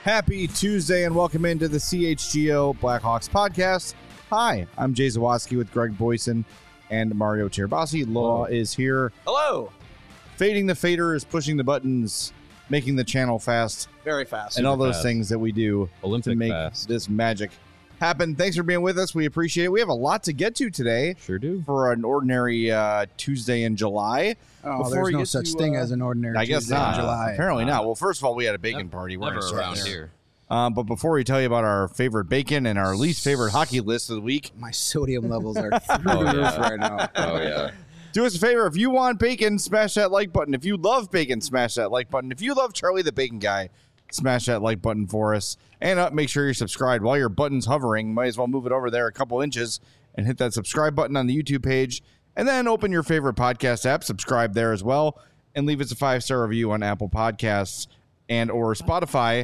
Happy Tuesday and welcome into the CHGO Blackhawks podcast. Hi, I'm Jay Zawoski with Greg Boyson and Mario Tirabassi. Law is here. Hello. Fading the faders, pushing the buttons, making the channel fast, Very fast. and all Super those fast. things that we do Olympic to make fast. this magic happen. Thanks for being with us. We appreciate it. We have a lot to get to today Sure do. for an ordinary Tuesday in July. Oh, Before there's we no get such to, thing as an ordinary I guess Tuesday not. in July. Apparently not. Well, first of all, we had a bacon party. We're Never going to start around there. here. But before we tell you about our favorite bacon and our least favorite hockey list of the week, My sodium levels are through Oh, the roof yeah. right now. Oh, yeah. do us a favor. If you want bacon, smash that like button. If you love bacon, smash that like button. If you love Charlie the Bacon Guy, smash that like button for us. And make sure you're subscribed. While your button's hovering, might as well move it over there a couple inches and hit that subscribe button on the YouTube page. And then open your favorite podcast app, subscribe there as well, and leave us a 5-star review on Apple Podcasts and or Spotify.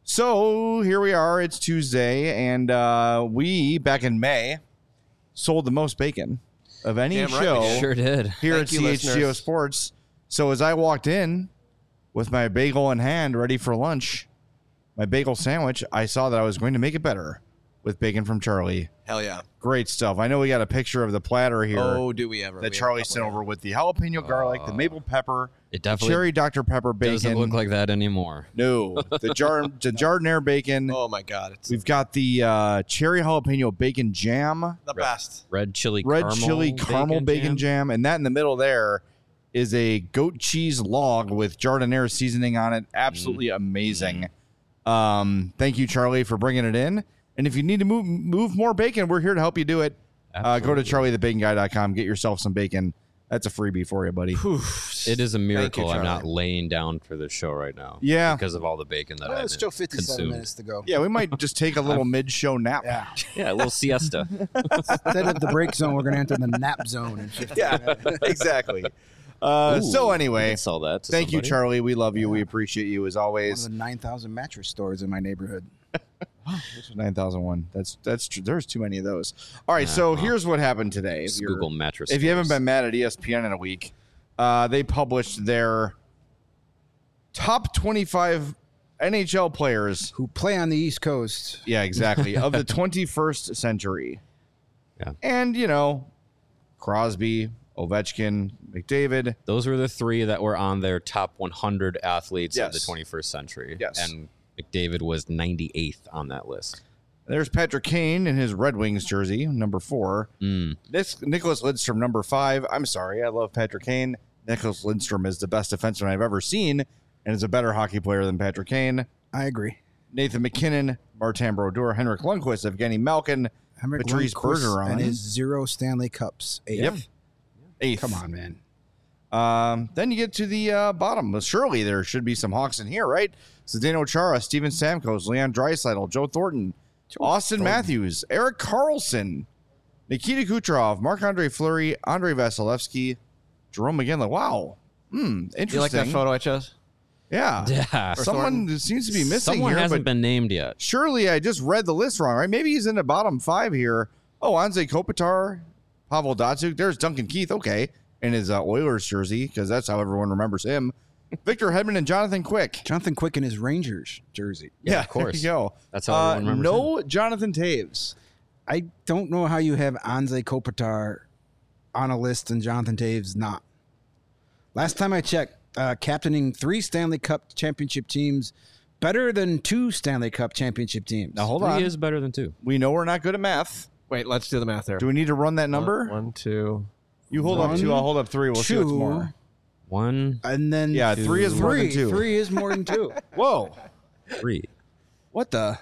So here we are. It's Tuesday, and we, back in May, sold the most bacon of any Damn right show we did. Sure did. here Thank at you, CHGO listeners. Sports. So as I walked in with my bagel in hand, ready for lunch, my bagel sandwich, I saw that I was going to make it better with bacon from Charlie. Hell yeah. Great stuff. I know we got a picture of the platter here Oh, do we ever? that We have a Charlie couple sent here. over with the jalapeno garlic, the maple pepper, It the definitely cherry Dr. Pepper bacon. doesn't look like that anymore. No, the Jardiniere bacon. Oh my God, it's We've got the cherry jalapeno bacon jam, the best. Red chili caramel bacon jam, and that in the middle there is a goat cheese log with Jardiniere seasoning on it. Absolutely amazing. Thank you, Charlie, for bringing it in. And if you need to move more bacon, we're here to help you do it. Go to Absolutely. charliethebaconguy.com. Get yourself some bacon. That's a freebie for you, buddy. It is a miracle I'm Charlie. not laying down for this show right now. Yeah. Because of all the bacon that I've It's still 57 consumed. minutes to go. Yeah, we might just take a little mid-show nap. Yeah. Yeah, a little siesta. Instead of the break zone, we're going to enter the nap zone in 15 minutes. Exactly. Ooh, So we anyway, can sell that to thank you, somebody. Charlie. We love you. We appreciate you as One always. of the 9,000 mattress stores in my neighborhood. Which is 9001. That's true. There's too many of those. All right, so here's what happened today. Just If you're- Google mattress. If you haven't stores. been mad at ESPN in a week, they published their top 25 NHL players. Who play on the East Coast. Yeah, exactly. Of the 21st century. Yeah. And, Crosby, Ovechkin, McDavid. Those were the three that were on their top 100 athletes of the Yes. 21st century. Yes. And McDavid was 98th on that list. There's Patrick Kane in his Red Wings jersey, number 4. This Nicholas Lidstrom, number 5. I'm sorry, I love Patrick Kane. Nicholas Lidstrom is the best defenseman I've ever seen and is a better hockey player than Patrick Kane. I agree. Nathan McKinnon, Martin Brodeur, Henrik Lundqvist, Evgeny Malkin, Henrik Patrice Lundqvist Bergeron. and his 0 Stanley Cups. 8th. Yep. 8th. Come on, man. Then you get to the bottom. Well, surely there should be some Hawks in here, right? Zdeno Chara, Steven Stamkos, Leon Draisaitl, Joe Thornton, Austin Matthews, Eric Carlson, Nikita Kucherov, Marc-Andre Fleury, Andrei Vasilevsky, Jerome McGinley. Wow. Interesting. You like that photo I chose? Yeah. Yeah. Someone seems to be missing Someone here, hasn't but been named yet. surely I just read the list wrong, right? Maybe he's in the bottom 5 here. Oh, Anze Kopitar, Pavel Datsyuk. There's Duncan Keith. Okay. In his Oilers jersey, because that's how everyone remembers him. Victor Hedman and Jonathan Quick. Jonathan Quick in his Rangers jersey. Yeah, of course. There you go. That's how everyone remembers No Jonathan Taves. I don't know how you have Anze Kopitar on a list and Jonathan Taves not. Last time I checked, captaining 3 Stanley Cup championship teams, better than 2 Stanley Cup championship teams. Now, hold 3 on. is better than 2. We know we're not good at math. Wait, let's do the math there. Do we need to run that number? 1, 2. You hold up 1, 2, I'll hold up 3. We'll see what's 2, more. 1, And then Yeah, 3 is more than 2. 3 is more than 2. Whoa. 3. What the?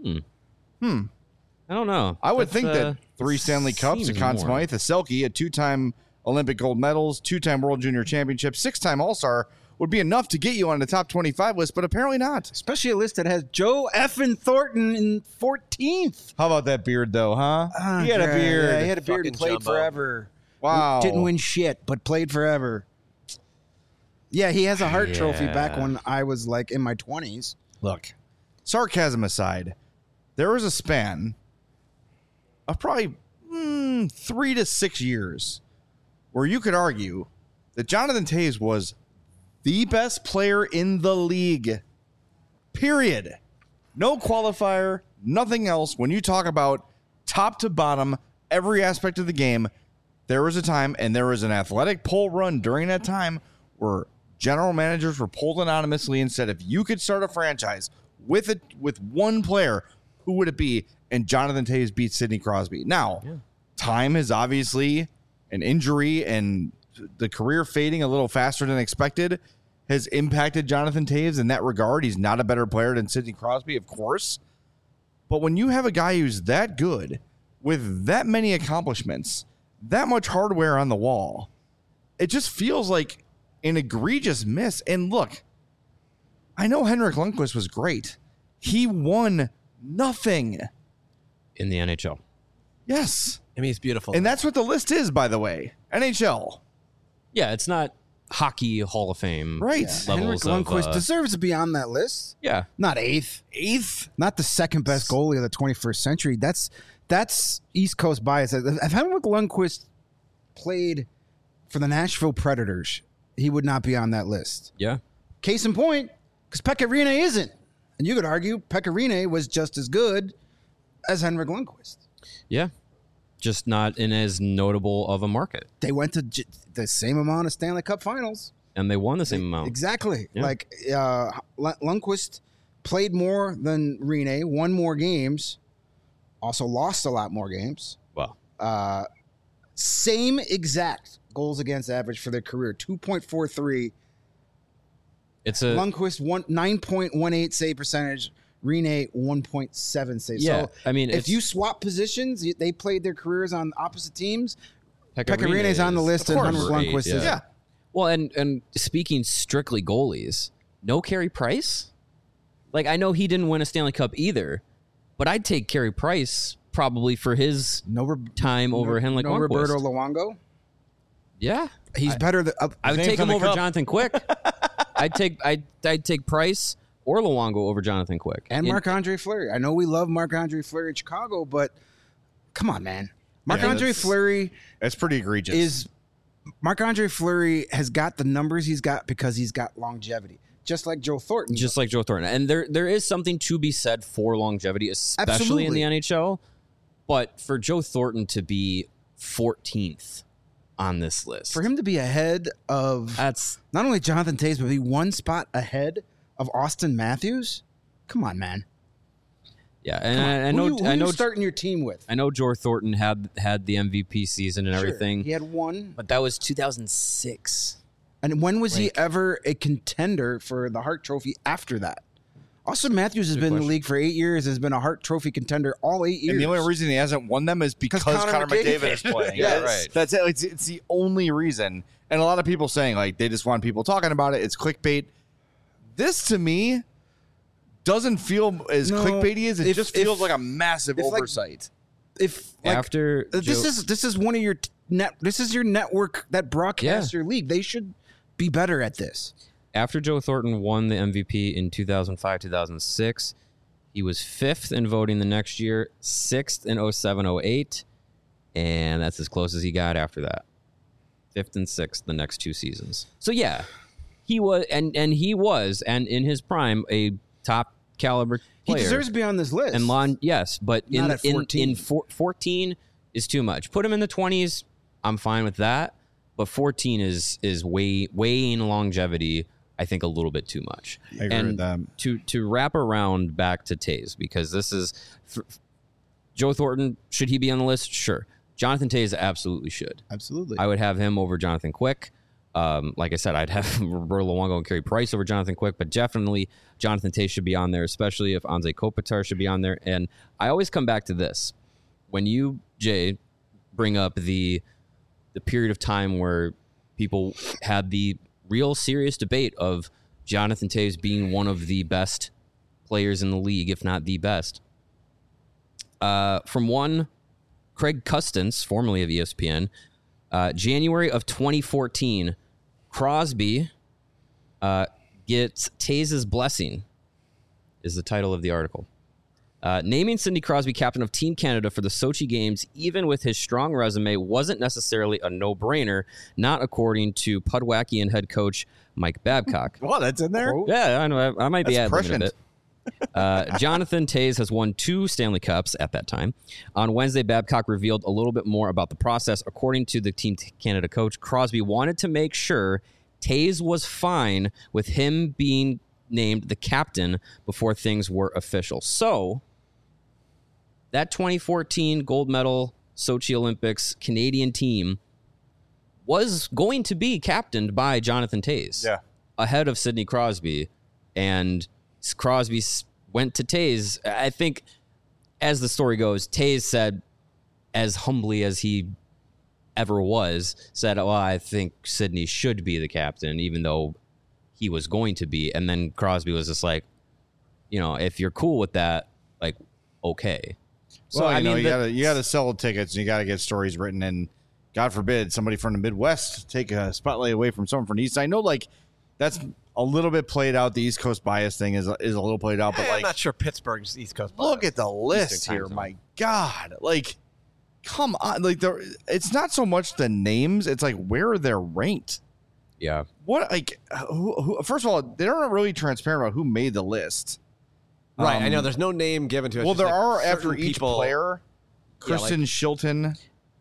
I don't know. I would That's, think that 3 Stanley Cups, a seems Conn more. Smythe, a Selke, a 2-time Olympic gold medals, 2-time World Junior Championship, 6-time All-Star would be enough to get you on the top 25 list, but apparently not. Especially a list that has Joe effing Thornton in 14th. How about that beard, though, huh? He had a beard. Yeah, he had a beard and Fucking played Jumbo. forever. Wow. Didn't win shit, but played forever. Yeah, he has a Hart Trophy back Yeah. when I was like in my 20s. Look, sarcasm aside, there was a span of probably 3 to 6 years where you could argue that Jonathan Taves was the best player in the league. Period. No qualifier, nothing else. When you talk about top to bottom, every aspect of the game, there was a time, and there was an athletic poll run during that time where general managers were pulled anonymously and said, if you could start a franchise with one player, who would it be? And Jonathan Toews beat Sidney Crosby. Now, time is obviously an injury, and the career fading a little faster than expected has impacted Jonathan Toews in that regard. He's not a better player than Sidney Crosby, of course. But when you have a guy who's that good, with that many accomplishments, that much hardware on the wall, it just feels like an egregious miss. And look, I know Henrik Lundqvist was great. He won nothing in the NHL. Yes. I mean, it's beautiful. And that's what the list is, by the way. NHL. Yeah, it's not hockey Hall of Fame. Right. Henrik Levels of, Lundqvist deserves to be on that list. yeah. Not eighth. Eighth? Not the second best goalie of the 21st century. That's East Coast bias. If Henrik Lundqvist played for the Nashville Predators, he would not be on that list. Yeah. Case in point, because Pekka Rinne isn't. And you could argue Pekka Rinne was just as good as Henrik Lundqvist. Yeah. Just not in as notable of a market. They went to the same amount of Stanley Cup finals. And they won the same amount. Exactly. Yeah. Like Lundqvist played more than Rinne, won more games, also lost a lot more games. Well, Same exact goals against average for their career, 2.43. it's a Lundqvist 9.18 save percentage, Rinne 1.7 save. yeah. So I mean, if it's, you swap positions, they played their careers on opposite teams. Pekka Pekka Rinne's on the is, list, of and course, Henrik great, Lundqvist is. Yeah. Well, and speaking strictly goalies, no Carey Price. Like, I know he didn't win a Stanley Cup either, but I'd take Carey Price probably for his time over Henrik no Lundqvist. Roberto Luongo. Yeah, He's better than I would Name's take on him the over cup. Jonathan Quick. I'd take Price or Luongo over Jonathan Quick. and Marc-Andre Fleury. I know we love Marc-Andre Fleury in Chicago, but come on, man. Marc-Andre that's- Fleury That's pretty egregious. Marc-Andre Fleury has got the numbers he's got because he's got longevity, just like Joe Thornton. Just like Joe Thornton. And there is something to be said for longevity, especially in the NHL. But for Joe Thornton to be 14th on this list, for him to be ahead of that's not only Jonathan Toews, but be one spot ahead of Austin Matthews. Come on, man. yeah. And Who I you know starting your team with. I know Joe Thornton had the MVP season and Sure, everything, he had one. but that was 2006. And when was he ever a contender for the Hart Trophy after that? Austin Matthews has been in the league for 8 years, has been a Hart Trophy contender all 8 years. and the only reason he hasn't won them is because Connor Connor McDavid is playing. Yes. right. That's it. It's the only reason. And a lot of people saying, like, they just want people talking about it. It's clickbait. This, to me, doesn't feel as No, clickbaity as it just if- feels like a massive if, like, oversight. If like, After this Joe- is one of your this is your network that broadcasts your league. They should be better at this. After Joe Thornton won the MVP in 2005-2006, he was 5th in voting the next year, 6th in 07-08, and that's as close as he got after that. 5th and 6th the next 2 seasons. So yeah, he was and in his prime a top caliber He player. deserves to be on this list. And yes, but Not at 14. 14 is too much. Put him in the 20s, I'm fine with that. But 14 is weighing longevity, I think, a little bit too much. I agree with that. To wrap around back to Toews, because this is Joe Thornton. Should he be on the list? Sure. Jonathan Toews absolutely should. Absolutely. I would have him over Jonathan Quick. Like I said, I'd have Roberto Luongo and Carey Price over Jonathan Quick, but definitely Jonathan Toews should be on there, especially if Anze Kopitar should be on there. And I always come back to this. When you, Jay, bring up the period of time where people had the real serious debate of Jonathan Toews being one of the best players in the league, if not the best. From one, Craig Custance, formerly of ESPN, January of 2014, Crosby gets Toews' blessing is the title of the article. Naming Sidney Crosby captain of Team Canada for the Sochi Games, even with his strong resume, wasn't necessarily a no-brainer, not according to Pudwackian head coach Mike Babcock. Well, that's in there. Yeah, I know. I might be That's ad-libbing a prescient. Jonathan Toews has won 2 Stanley Cups at that time. On Wednesday, Babcock revealed a little bit more about the process. According to the Team Canada coach, Crosby wanted to make sure Toews was fine with him being named the captain before things were official. So, that 2014 gold medal Sochi Olympics Canadian team was going to be captained by Jonathan Toews ahead of Sidney Crosby. And Crosby went to Toews. I think, as the story goes, Toews said, as humbly as he ever was, said, well, I think Sidney should be the captain, even though he was going to be. And then Crosby was just like, if you're cool with that, like, okay. So well, you gotta sell tickets and you gotta get stories written, and God forbid somebody from the Midwest take a spotlight away from someone from the East. I know, like, that's a little bit played out. The East Coast bias thing is a little played out, but like, I'm not sure Pittsburgh's East Coast bias. Look at the list here, my God! Like, come on, like it's not so much the names; it's like where they're ranked. Yeah. What, like, who, first of all, they're not really transparent about who made the list. Right, I know there's no name given to it. Well, there are after each player. Kristen Shilton.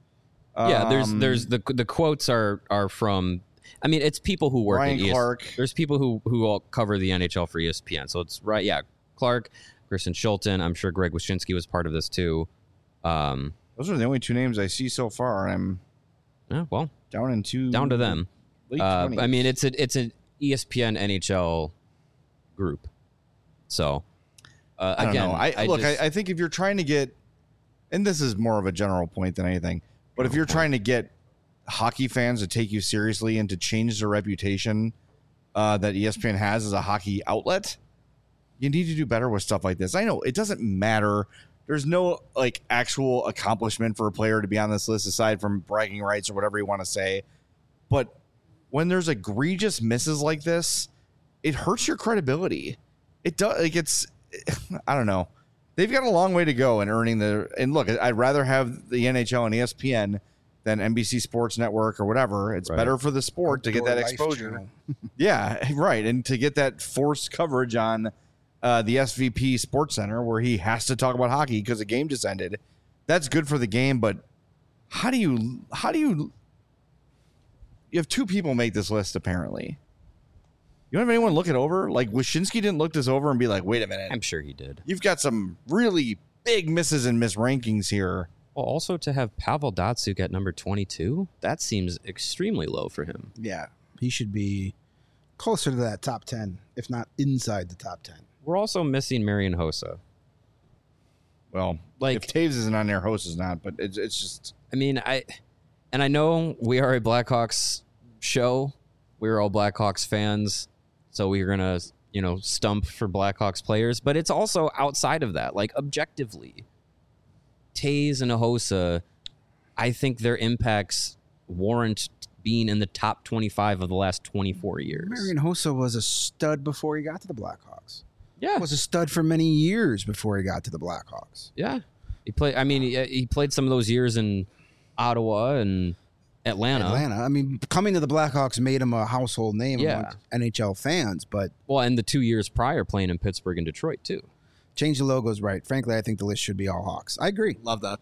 There's the quotes are from. I mean, it's people who work Ryan at Clark. There's people who all cover the NHL for ESPN. So it's right, yeah. Clark, Kristen Shilton. I'm sure Greg Wyshynski was part of this too. Those are the only 2 names I see so far. I'm down to them. Late 20s. I mean, it's an ESPN NHL group. So. I don't know. I think if you're trying to get, and this is more of a general point than anything, but if you're trying to get hockey fans to take you seriously and to change the reputation that ESPN has as a hockey outlet, you need to do better with stuff like this. I know it doesn't matter. There's no like actual accomplishment for a player to be on this list aside from bragging rights or whatever you want to say. But when there's egregious misses like this, it hurts your credibility. It does. Like I don't know. They've got a long way to go in earning and look, I'd rather have the NHL and ESPN than NBC Sports Network or whatever. It's better for the sport to get that exposure. Yeah, right. And to get that forced coverage on the SVP Sports Center where he has to talk about hockey because the game just ended. That's good for the game, but how do you have 2 people make this list apparently? You don't have anyone look it over? Like, Wyshynski didn't look this over and be like, wait a minute. I'm sure he did. You've got some really big misses and misrankings here. Well, also to have Pavel Datsyuk at number 22, that seems extremely low for him. Yeah, he should be closer to that top 10, if not inside the top 10. We're also missing Marian Hossa. Well, like if Toews isn't on there, Hossa is not, but it's just... I mean, I know we are a Blackhawks show. We're all Blackhawks fans. So we're going to, stump for Blackhawks players. But it's also outside of that. Like, objectively, Toews and Hossa, I think their impacts warrant being in the top 25 of the last 24 years. Marian Hossa was a stud before he got to the Blackhawks. Yeah. Was a stud for many years before he got to the Blackhawks. Yeah. He played some of those years in Ottawa and Atlanta. I mean, coming to the Blackhawks made him a household name among NHL fans, but... Well, and the 2 years prior playing in Pittsburgh and Detroit, too. Change the logos right. Frankly, I think the list should be all Hawks. I agree. Love that.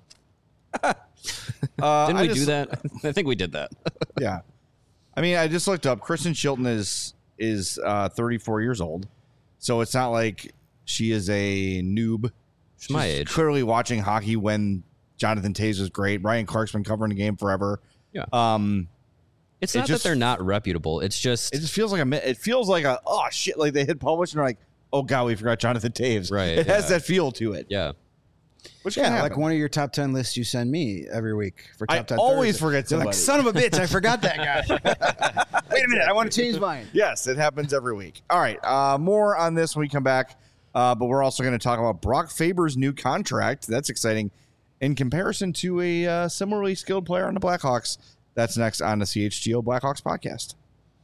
Didn't we do that? I think we did that. Yeah. I mean, I just looked up. Kristen Shilton is 34 years old, so it's not like she is a noob. She's my age. Clearly watching hockey when Jonathan Toews was great. Ryan Clark's been covering the game forever. Yeah. It's not that they're not reputable. It just feels like a oh shit, like they hit publish and they're like, oh god, we forgot Jonathan Toews. Right. It has that feel to it. Yeah. Which like one of your top 10 lists you send me every week for top 10. I always Thursday. forget somebody. Like, son of a bitch, I forgot that guy. Wait a minute, I want to change mine. Yes, it happens every week. All right, more on this when we come back. But we're also going to talk about Brock Faber's new contract. That's exciting in comparison to a similarly skilled player on the Blackhawks. That's next on the CHGO Blackhawks podcast.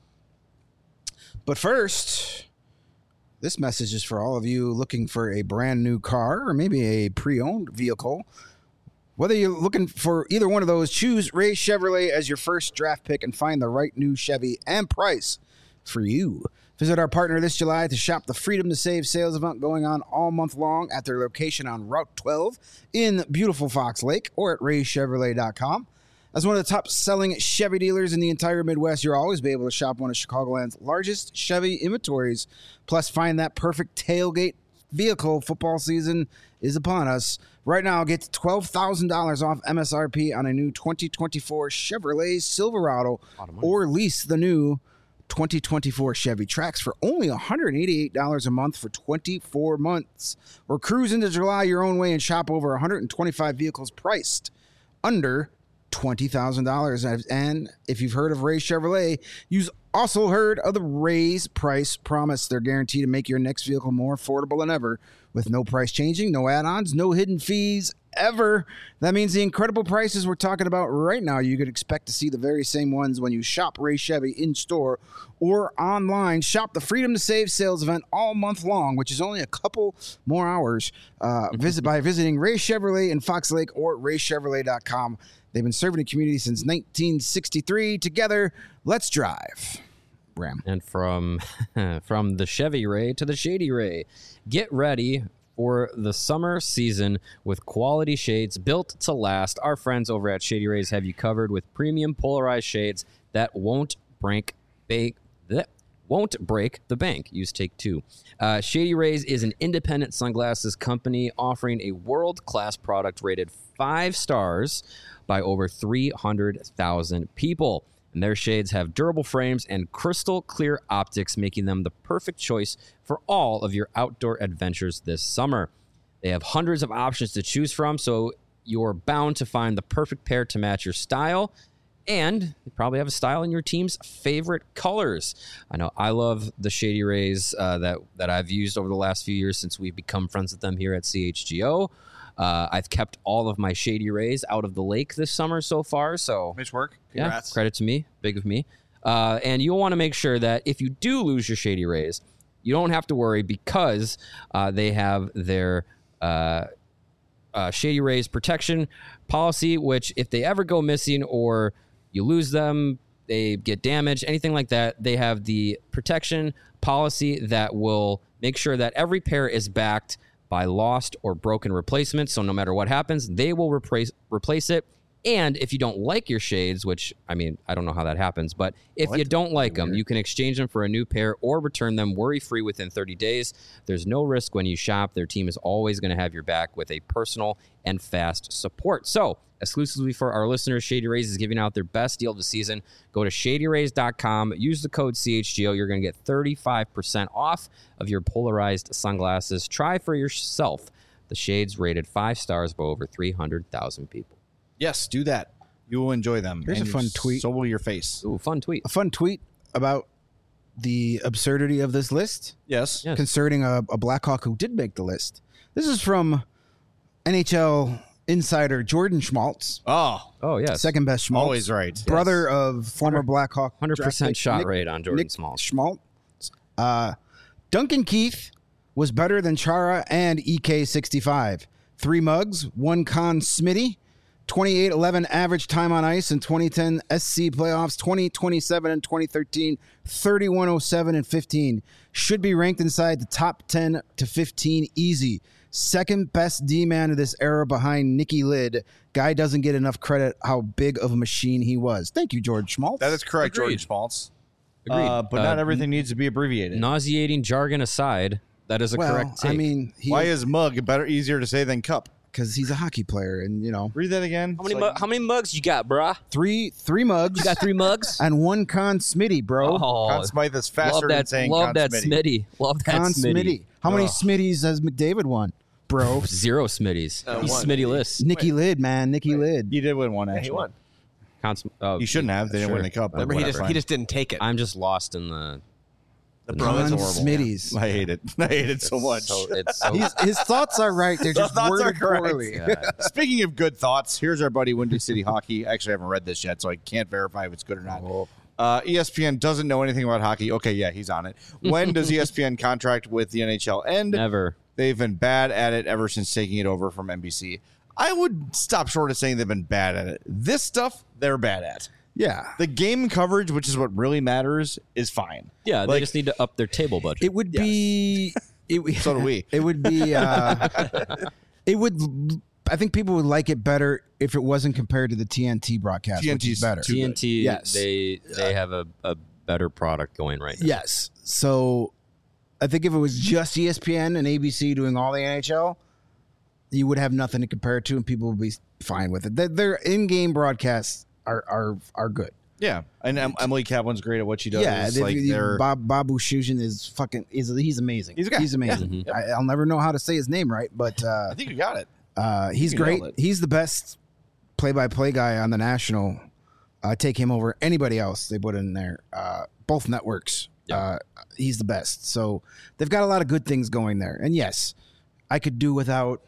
But first, this message is for all of you looking for a brand new car or maybe a pre-owned vehicle. Whether you're looking for either one of those, choose Ray Chevrolet as your first draft pick and find the right new Chevy and price for you. Visit our partner this July to shop the Freedom to Save sales event going on all month long at their location on Route 12 in beautiful Fox Lake or at raychevrolet.com. As one of the top-selling Chevy dealers in the entire Midwest, you'll always be able to shop one of Chicagoland's largest Chevy inventories. Plus, find that perfect tailgate vehicle. Football season is upon us. Right now, get $12,000 off MSRP on a new 2024 Chevrolet Silverado or lease the new 2024 Chevy Trax for only $188 a month for 24 months. Or cruise into July your own way and shop over 125 vehicles priced under $20,000. And if you've heard of Ray Chevrolet, you've also heard of the Ray's Price Promise. They're guaranteed to make your next vehicle more affordable than ever with no price changing, no add-ons, no hidden fees ever. That means the incredible prices we're talking about right now, you could expect to see the very same ones when you shop Ray Chevy in store or online. Shop the Freedom to Save sales event all month long, which is only a couple more hours. Visit by visiting Ray Chevrolet in Fox Lake or raychevrolet.com. They've been serving the community since 1963. Together, let's drive. Ram. And from the Chevy Ray to the Shady Ray, get ready for the summer season with quality shades built to last. Our friends over at Shady Rays have you covered with premium polarized shades that won't break the bank. Use take two. Shady Rays is an independent sunglasses company offering a world-class product rated 5 stars by over 300,000 people. And their shades have durable frames and crystal clear optics, making them the perfect choice for all of your outdoor adventures this summer. They have hundreds of options to choose from, so you're bound to find the perfect pair to match your style. And you probably have a style in your team's favorite colors. I know I love the Shady Rays that I've used over the last few years since we've become friends with them here at CHGO. I've kept all of my Shady Rays out of the lake this summer so far. So Nice work. Congrats. Yeah, credit to me. Big of me. And you'll want to make sure that if you do lose your Shady Rays, you don't have to worry because they have their Shady Rays protection policy, which if they ever go missing or you lose them, they get damaged, anything like that, they have the protection policy that will make sure that every pair is backed by lost or broken replacements. So no matter what happens, they will replace it. And if you don't like your shades, which, I mean, I don't know how that happens, but if you don't like them, you can exchange them for a new pair or return them worry-free within 30 days. There's no risk when you shop. Their team is always going to have your back with a personal and fast support. So, exclusively for our listeners, Shady Rays is giving out their best deal of the season. Go to shadyrays.com, use the code CHGO. You're going to get 35% off of your polarized sunglasses. Try for yourself the shades rated 5 stars by over 300,000 people. Yes, do that. You will enjoy them. Here's a fun tweet. So will your face. Ooh, fun tweet. A fun tweet about the absurdity of this list. Yes. Concerning a Blackhawk who did make the list. This is from NHL insider Jordan Schmaltz. Oh, yes. Second best Schmaltz. Always right. Brother of former Blackhawk. 100% shot rate on Jordan Schmaltz. Duncan Keith was better than Chara and EK65. 3 mugs, 1 Conn Smitty, 28-11 average time on ice in 2010 SC playoffs, 20-27 in 2013, 31-07 and 15. Should be ranked inside the top 10 to 15 easy. Second best D-man of this era behind Nicky Lid. Guy doesn't get enough credit how big of a machine he was. Thank you, George Schmaltz. That is correct, Agreed. Jordan Schmaltz. Agreed. But not everything needs to be abbreviated. Nauseating jargon aside, that is a correct take. I mean, Why is mug easier to say than cup? because he's a hockey player, and Read that again. How many mugs you got, bruh? three mugs. You got 3 mugs? and 1 Conn Smitty, bro. Conn Smythe is faster than saying love Conn that Smitty. Smitty. Love that Conn Smitty. Smitty. How many Smitties has McDavid won, bro? 0 Smitties. He's one. Smitty-less. Nicky Lid, man. Nicky Lid. He did win one, actually. He won. He shouldn't have. They didn't win the cup. Remember, he just didn't take it. I'm just lost in the Conn horrible. Smitties. I hate it. I hate it so much. it's so His thoughts are right. They're just thoughts are worded correct. poorly. Speaking of good thoughts, here's our buddy Windy City Hockey. Actually, I haven't read this yet, so I can't verify if it's good or not. ESPN doesn't know anything about hockey. Okay, yeah, he's on it. When does ESPN contract with the NHL end? never. They've been bad at it ever since taking it over from NBC. I would stop short of saying they've been bad at it. This stuff, they're bad at. Yeah. The game coverage, which is what really matters, is fine. Yeah, they Like- just need to up their table budget. It would be. So do we. It would be. It would. I think people would like it better if it wasn't compared to the TNT broadcast, which TNT's is better. too good. TNT, Yes. they have a better product going right now. Yes. So I think if it was just ESPN and ABC doing all the NHL, you would have nothing to compare it to, and people would be fine with it. Their in-game broadcasts are good. Yeah, and Emily Kaplan's great at what she does. Yeah, like they're Bob Bouchoujian is he's amazing. He's a guy. He's amazing. I'll never know how to say his name right, but I think you got it. he's You great. nailed it. He's the best play-by-play guy on the national. Take him over anybody else they put in there. Both networks. Yeah. He's the best. So they've got a lot of good things going there. And yes, I could do without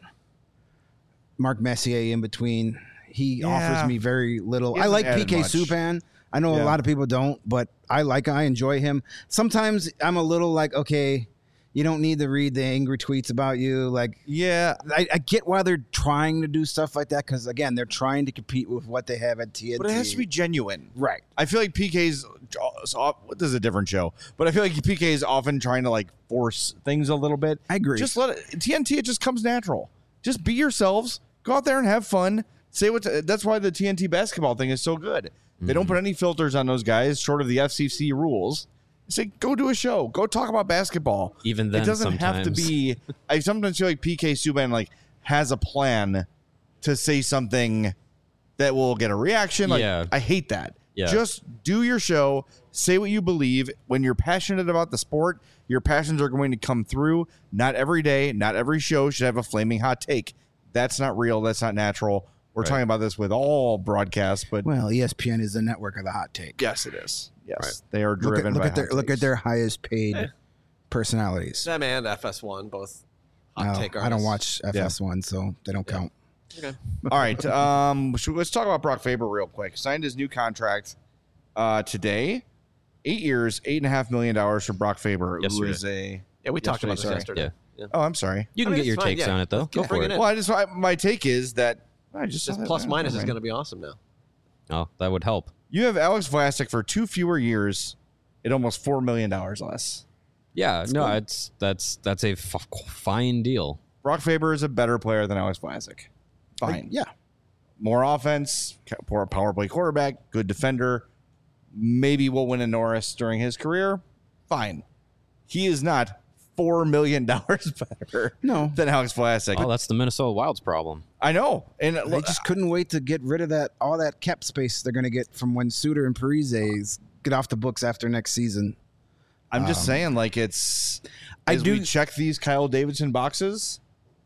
Mark Messier in between. He Yeah. offers me very little. He I hasn't like added PK much. Subban. I know Yeah. a lot of people don't, but I enjoy him. Sometimes I'm a little like, okay, you don't need to read the angry tweets about you. Like, Yeah, I get why they're trying to do stuff like that because again, they're trying to compete with what they have at TNT. but it has to be genuine. right. I feel like PK's. This is a different show, but I feel like PK is often trying to like force things a little bit. I agree. Just let it TNT. It just comes natural. Just be yourselves. Go out there and have fun. Say what. That's why the TNT basketball thing is so good. They don't put any filters on those guys, short of the FCC rules. Say, go do a show. Go talk about basketball. Even then, it doesn't have to sometimes. be. I sometimes feel like PK Subban like has a plan to say something that will get a reaction. Like, Yeah. I hate that. Yeah. Just do your show. Say what you believe. When you're passionate about the sport, your passions are going to come through. Not every day, not every show should have a flaming hot take. That's not real. That's not natural. We're talking about this with all broadcasts, but Well, ESPN is the network of the hot take. yes, it is. Yes, Right. they are driven by hot Look at takes. their highest paid personalities. Them and FS1 both hot No, take I don't artists. watch FS1, so they don't count. Okay. All right. Let's talk about Brock Faber real quick. Signed his new contract today. 8 years, $8.5 million for Brock Faber, who Yesterday. is a. Yeah, we talked about this sorry. yesterday. Yeah. Oh, I'm sorry. You can I mean, get your it's fine, takes yeah. on it though. Go Yeah, for bring it. it in. Well, my take is that I just This saw that. plus minus is Never going mind. to be awesome now. Oh, that would help. You have Alex Vlasic for 2 fewer years at almost $4 million less. Yeah, no, that's a fine deal. Brock Faber is a better player than Alex Vlasic. Fine. Yeah. More offense, power play quarterback, good defender. Maybe will win a Norris during his career. Fine. He is not $4 million better No. than Alex Vlasic. Oh, that's the Minnesota Wild's problem. I know. And They just couldn't wait to get rid of all that cap space they're going to get from when Suter and Parise get off the books after next season. I'm just saying, like, it's. I As do- we check these Kyle Davidson boxes.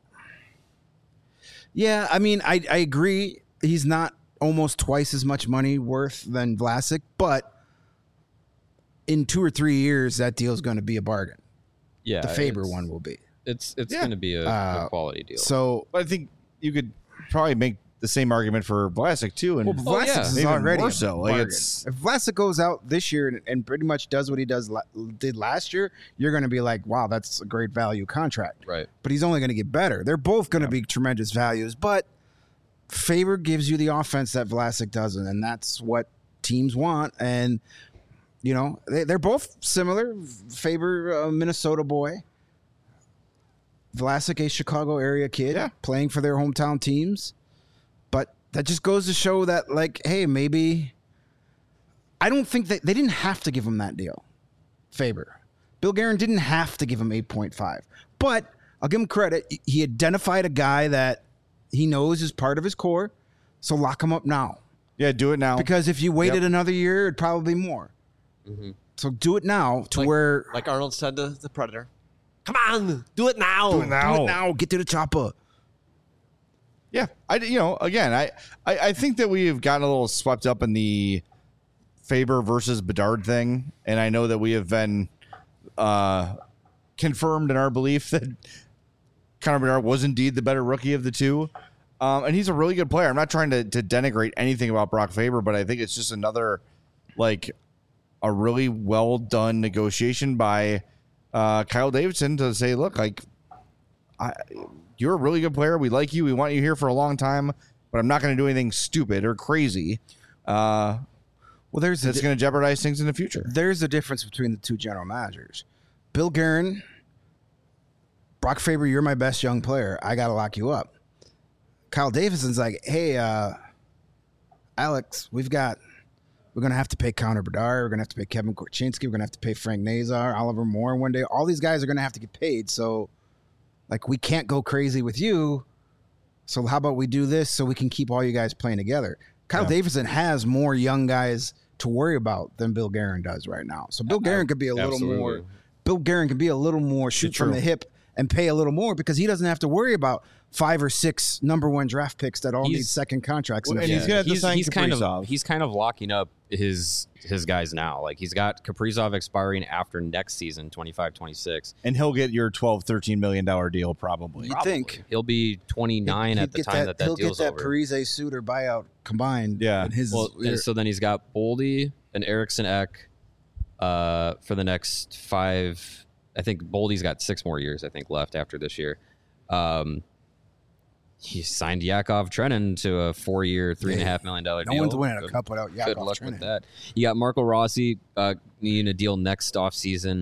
Yeah, I mean, I agree. He's not almost twice as much money worth than Vlasic, but in 2 or 3 years, that deal is going to be a bargain. Yeah, The Faber it's- one will be. It's Yeah. going to be a quality deal. So, But I think you could probably make the same argument for Vlasic, too. And well, Vlasic yeah. is Even already more a so. Like, bargain. it's- If Vlasic goes out this year and pretty much does what he did last year, you're going to be like, wow, that's a great value contract. right. But he's only going to get better. They're both going to be tremendous values, but Faber gives you the offense that Vlasic doesn't, and that's what teams want. And you know, they're both similar. Faber, a Minnesota boy. Vlasic, a Chicago area kid, Yeah. playing for their hometown teams. But that just goes to show that, like, hey, maybe I don't think they didn't have to give him that deal. Faber. Bill Guerin didn't have to give him 8.5. But I'll give him credit. He identified a guy that he knows is part of his core. So lock him up now. yeah, do it now. Because if you waited another year, it'd probably be more. So do it now to where Like Arnold said to the Predator, come on, do it now. Do it now. do it now. Get to the chopper. Yeah, I think that we have gotten a little swept up in the Faber versus Bedard thing, and I know that we have been confirmed in our belief that Connor Bedard was indeed the better rookie of the two, and he's a really good player. I'm not trying to denigrate anything about Brock Faber, but I think it's just another like a really well done negotiation by Kyle Davidson to say, look, like. You're a really good player. We like you. We want you here for a long time, but I'm not going to do anything stupid or crazy. Well, there's That's going to jeopardize things in the future. there's a difference between the two general managers. Bill Guerin, Brock Faber, you're my best young player. I got to lock you up. Kyle Davidson's like, hey, Alex, we're going to have to pay Connor Bedard. We're going to have to pay Kevin Korchinski. We're going to have to pay Frank Nazar, Oliver Moore one day. All these guys are going to have to get paid. So, like, we can't go crazy with you. So how about we do this so we can keep all you guys playing together? Kyle Davidson has more young guys to worry about than Bill Guerin does right now. So Bill Guerin could be a little more. Bill Guerin could be a little more shoot from the hip and pay a little more because he doesn't have to worry about 5 or 6 number 1 draft picks that all need second contracts. And he's going to sign Kaprizov. He's kind of locking up his guys now. Like he's got Kaprizov expiring after next season, 25-26. And he'll get your $12, $13 million deal probably. You think he'll be 29 at the time that he'll deal's get that over. Parise Suter buyout combined. Yeah. in his And so then he's got Boldy and Eriksson Ek for the next 5. I think Boldy's got 6 more years, I think, left after this year. He signed Yakov Trenin to a 4-year, $3.5 million deal. no one's winning a cup without Yakov Good luck Trenin. with that. You got Marco Rossi needing a deal next offseason.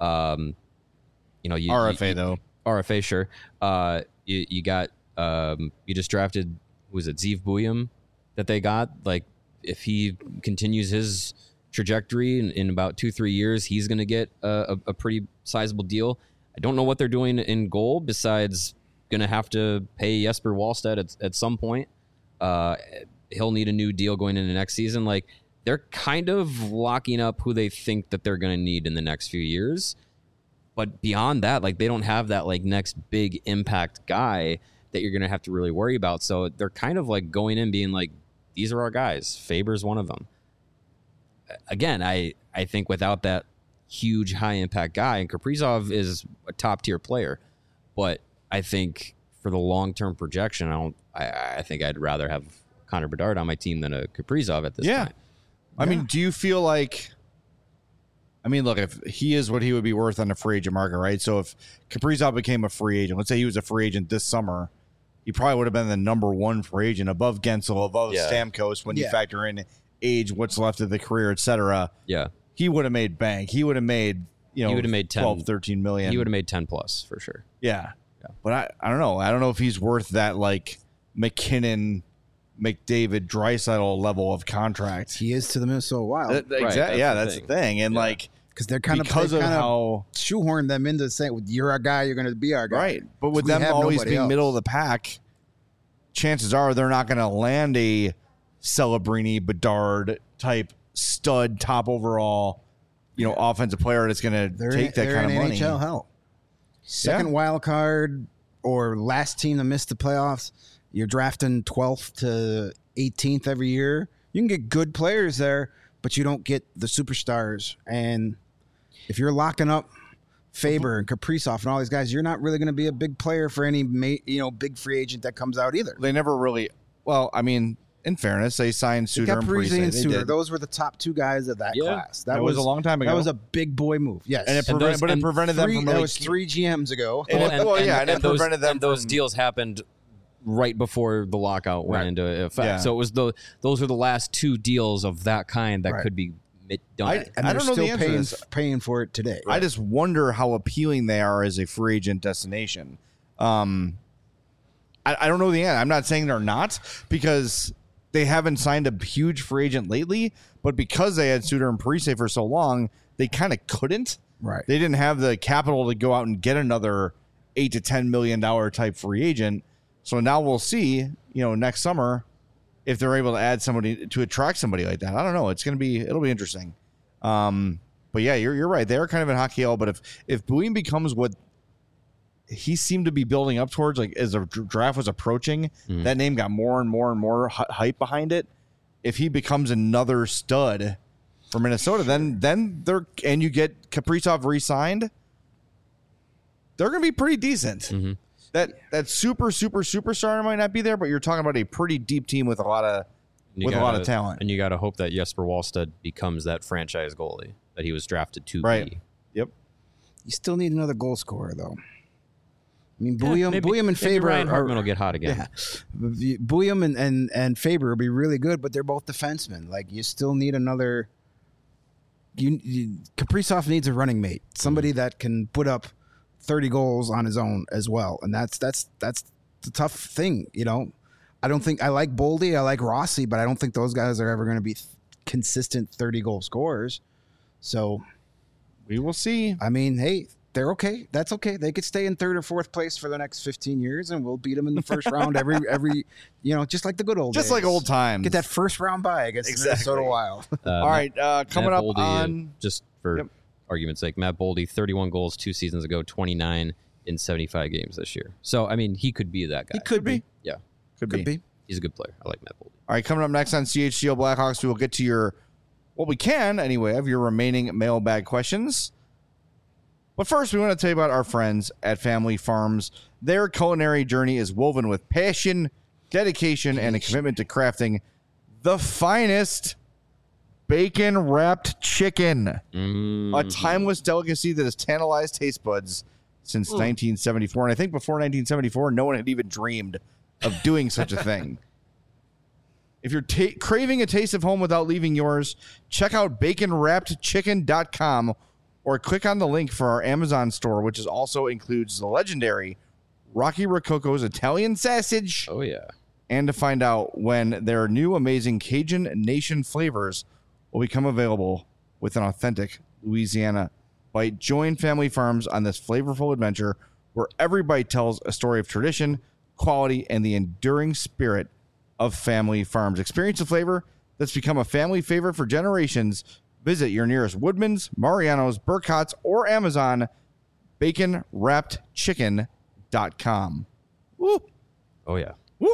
RFA, though. RFA, sure. You got you just drafted, was it Zeev Buyum that they got? Like, if he continues his trajectory in about 2-3 years, he's going to get a pretty sizable deal. I don't know what they're doing in goal besides going to have to pay Jesper Wallstedt at some point. He'll need a new deal going into next season. Like, they're kind of locking up who they think that they're going to need in the next few years. But beyond that, like, they don't have that like next big impact guy that you're going to have to really worry about. So they're kind of like going in being like, these are our guys. Faber's one of them. Again, I think without that huge high impact guy, and Kaprizov is a top tier player, but I think for the long term projection, I think I'd rather have Connor Bedard on my team than a Kaprizov at this point. I mean, do you feel like? I mean, look, if he is what he would be worth on the free agent market, right? So if Kaprizov became a free agent, let's say he was a free agent this summer, he probably would have been the number 1 free agent above Gensel, above Stamkos when you factor in age, what's left of the career, etc. Yeah. He would have made bank. He would have made, He would have made 12, 13 million. He would have made 10 plus for sure. Yeah. But I don't know. I don't know if he's worth that like McKinnon, McDavid, Draisaitl level of contract. He is to the Minnesota Wild. Exactly. That's the thing. And like, because they're kind of how shoehorn them into saying, "You're our guy. You're going to be our guy." Right. But with them always being middle of the pack, chances are they're not going to land a Celebrini, Bedard type stud, top overall, offensive player that's going to take that kind of money. NHL hell. Second wild card or last team to miss the playoffs. You're drafting 12th to 18th every year. You can get good players there, but you don't get the superstars. And if you're locking up Faber and Kaprizov and all these guys, you're not really going to be a big player for any big free agent that comes out either. They never really. Well, I mean, in fairness, they signed Suter and Parise. And Suter. Those were the top 2 guys of that class. That was a long time ago. That was a big boy move. Yes, and it prevented them from. That was 3 GMs ago. And it prevented them. And those deals happened right before the lockout went into effect. Yeah. So it was those were the last 2 deals of that kind that could be done. I don't know the answer to this. Paying for it today. I just wonder how appealing they are as a free agent destination. I don't know the answer. I'm not saying they're not, because they haven't signed a huge free agent lately, but because they had Suter and Parise for so long, they kind of couldn't. Right. They didn't have the capital to go out and get another $8 to $10 million type free agent. So now we'll see, next summer if they're able to add somebody to attract somebody like that. I don't know. It'll be interesting. But yeah, you're right. They're kind of in hockey hell. But if Bouin becomes what he seemed to be building up towards, like as the draft was approaching, that name got more and more and more hype behind it. If he becomes another stud for Minnesota, then and you get Kaprizov re-signed, they're going to be pretty decent. Mm-hmm. That superstar might not be there, but you're talking about a pretty deep team with a lot of talent. And you got to hope that Jesper Wallstedt becomes that franchise goalie that he was drafted to right. be. Yep. You still need another goal scorer, though. I mean, Bouillon and Faber Ryan Hartman will get hot again. Yeah. Bouillon and Faber will be really good, but they're both defensemen. Like, you still need another. Kaprizov needs a running mate, somebody that can put up 30 goals on his own as well, and that's the tough thing, you know. I don't think I like Boldy, I like Rossi, but I don't think those guys are ever going to be consistent 30-goal scorers. So we will see. I mean, hey, they're okay. That's okay. They could stay in third or fourth place for the next 15 years, and we'll beat them in the first round every just like the good old Just days. like old times. Get that first round bye against the Minnesota Wild. All right, coming Matt up Boldy, on just for argument's sake, Matt Boldy, 31 goals 2 seasons ago, 29 in 75 games this year. So, I mean, he could be that guy. He could be. Yeah. Could be. He's a good player. I like Matt Boldy. All right, coming up next on CHGO Blackhawks, we will get to we can anyway, of your remaining mailbag questions. But first, we want to tell you about our friends at Family Farms. Their culinary journey is woven with passion, dedication, and a commitment to crafting the finest bacon-wrapped chicken. A timeless delicacy that has tantalized taste buds since 1974. And I think before 1974, no one had even dreamed of doing such a thing. If you're craving a taste of home without leaving yours, check out baconwrappedchicken.com or click on the link for our Amazon store, which also includes the legendary Rocky Rococo's Italian sausage. Oh, yeah. And to find out when their new amazing Cajun Nation flavors will become available with an authentic Louisiana bite. Join Family Farms on this flavorful adventure where every bite tells a story of tradition, quality, and the enduring spirit of Family Farms. Experience the flavor that's become a family favorite for generations. Visit your nearest Woodman's, Mariano's, Burkhart's, or Amazon. BaconWrappedChicken.com. Woo! Oh, yeah. Woo!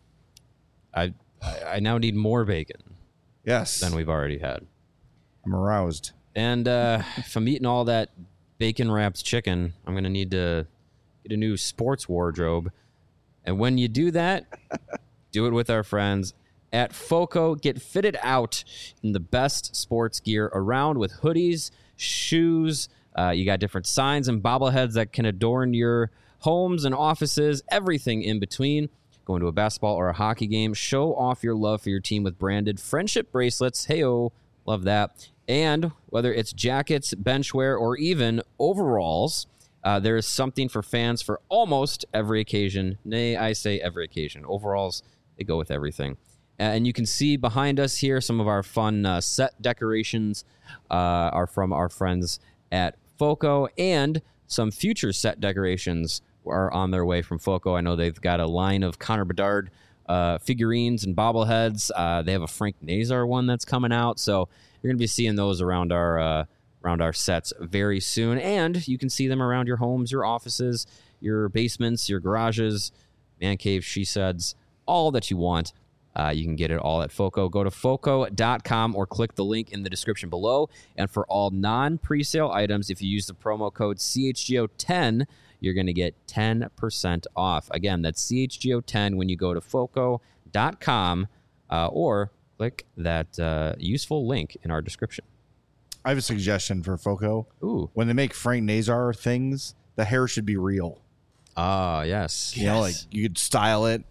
I now need more bacon Yes. than we've already had. I'm aroused. And if I'm eating all that bacon-wrapped chicken, I'm going to need to get a new sports wardrobe. And when you do that, do it with our friends at FOCO. Get fitted out in the best sports gear around with hoodies, shoes. You got different signs and bobbleheads that can adorn your homes and offices, everything in between. Going to a basketball or a hockey game, show off your love for your team with branded friendship bracelets. Hey-oh, love that. And whether it's jackets, benchwear, or even overalls, there is something for fans for almost every occasion. Nay, I say every occasion. Overalls, they go with everything. And you can see behind us here some of our fun set decorations are from our friends at FOCO, and some future set decorations are on their way from FOCO. I know they've got a line of Connor Bedard figurines and bobbleheads. They have a Frank Nazar one that's coming out, so you're going to be seeing those around our sets very soon. And you can see them around your homes, your offices, your basements, your garages, man caves, she sheds, all that you want. You can get it all at FOCO. Go to FOCO.com or click the link in the description below. And for all non-presale items, if you use the promo code CHGO10, you're going to get 10% off. Again, that's CHGO10 when you go to FOCO.com or click that useful link in our description. I have a suggestion for FOCO. Ooh. When they make Frank Nazar things, the hair should be real. Ah, yes. You know, like you could style it.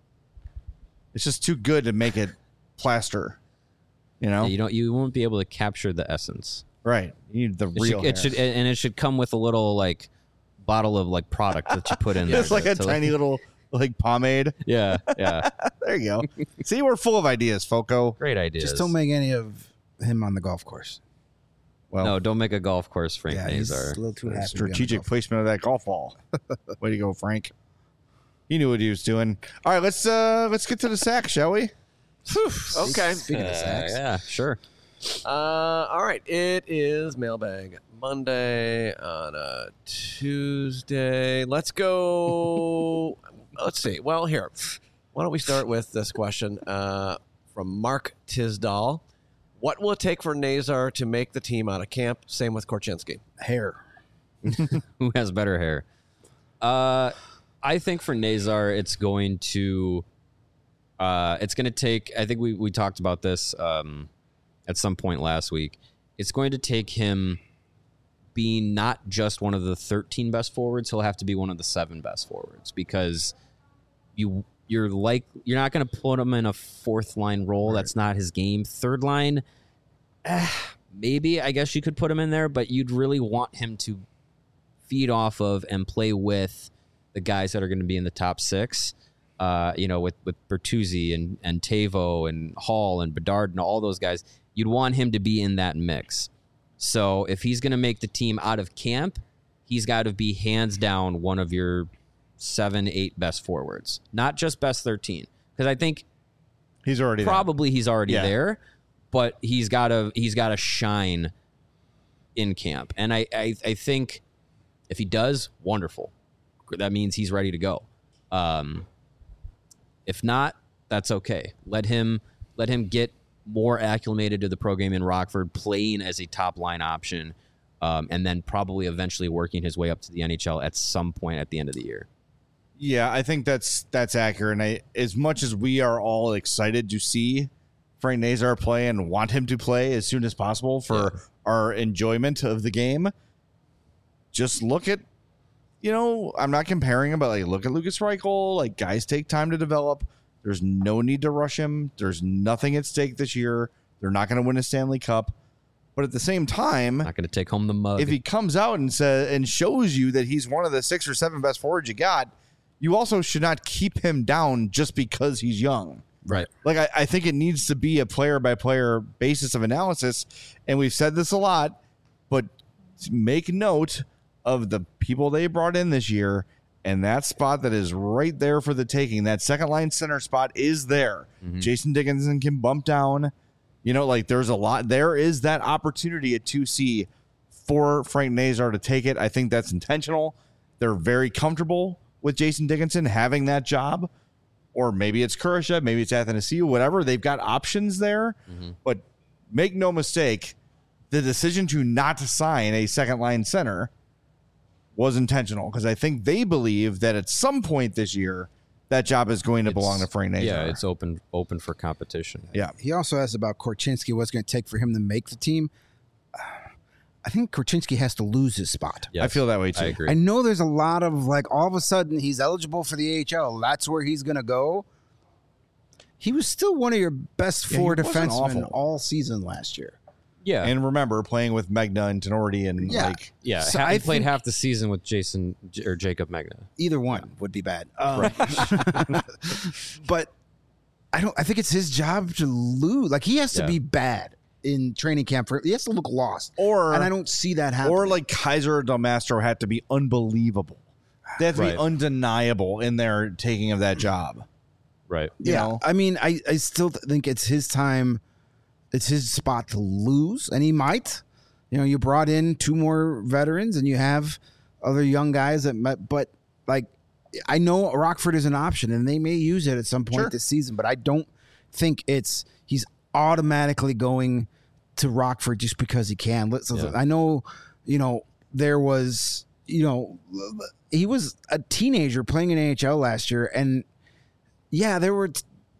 It's just too good to make it plaster. You know? Yeah, you won't be able to capture the essence. Right. You need the real It should come with a little like bottle of like product that you put in there. It's like a tiny little like pomade. Yeah, yeah. There you go. See, we're full of ideas, FOCO. Great ideas. Just don't make any of him on the golf course. Well, No, don't make a golf course, Frank Yeah, he's Nazar. a little too happy. to be on the strategic golf placement of that golf ball. Way to go, Frank. He knew what he was doing. All right, let's get to the sack, shall we? Okay. Speaking of sacks, Yeah, sure. All right. It is Mailbag Monday on a Tuesday. Let's go. Let's see. Well, here. Why don't we start with this question from Mark Tisdall. What will it take for Nazar to make the team out of camp? Same with Korchinski. hair. Who has better hair? I think for Nazar, it's going to take. I think we talked about this at some point last week. It's going to take him being not just one of the 13 best forwards, he'll have to be one of the 7 best forwards, because you're not going to put him in a fourth line role. Right. That's not his game. Third line, maybe I guess you could put him in there, but you'd really want him to feed off of and play with the guys that are going to be in the top 6. With Bertuzzi and Tavo and Hall and Bedard and all those guys, you'd want him to be in that mix. So if he's going to make the team out of camp, he's got to be hands down one of your 7, 8 best forwards, not just best 13. Because I think he's already there, but he's got to shine in camp. And I think if he does, wonderful. That means he's ready to go. If not, that's okay. Let him get more acclimated to the program in Rockford, playing as a top line option, and then probably eventually working his way up to the NHL at some point at the end of the year. Yeah, I think that's accurate. And as much as we are all excited to see Frank Nazar play and want him to play as soon as possible for our enjoyment of the game, just look at, I'm not comparing him, but look at Lucas Reichel. Guys take time to develop. There's no need to rush him. There's nothing at stake this year. They're not going to win a Stanley Cup. But at the same time, not going to take home the mug. If he comes out and shows you that he's one of the 6 or 7 best forwards you got, you also should not keep him down just because he's young. Right. I think it needs to be a player-by-player basis of analysis, and we've said this a lot, but make note of the people they brought in this year, and that spot that is right there for the taking. That second-line center spot is there. Mm-hmm. Jason Dickinson can bump down. There's a lot. There is that opportunity at 2C for Frank Nazar to take it. I think that's intentional. They're very comfortable with Jason Dickinson having that job. Or maybe it's Kurashev, maybe it's Athanasiou, whatever. They've got options there. Mm-hmm. But make no mistake, the decision to not sign a second-line center was intentional, because I think they believe that at some point this year, that job is going to belong to Frank Nazar. Yeah, it's open for competition. Yeah. He also asked about Korchinski, what's going to take for him to make the team. I think Korchinski has to lose his spot. Yes, I feel that way too. I agree. I know there's a lot of all of a sudden he's eligible for the AHL. That's where he's going to go. He was still one of your best 4 defensemen all season last year. Yeah. And remember playing with Megna and Tenorti and So I played half the season with Jason or Jacob Megna. Either one would be bad. But I think it's his job to lose. He has to be bad in training camp. He has to look lost. And I don't see that happen. Or Kaiser or Del Mastro had to be unbelievable. They have to be undeniable in their taking of that job. Right. You know? I mean, I still think it's his time. It's his spot to lose, and he might. You brought in 2 more veterans, and you have other young guys but I know Rockford is an option, and they may use it at some point this season, but I don't think he's automatically going to Rockford just because he can. I know, there was, he was a teenager playing in AHL last year, and there were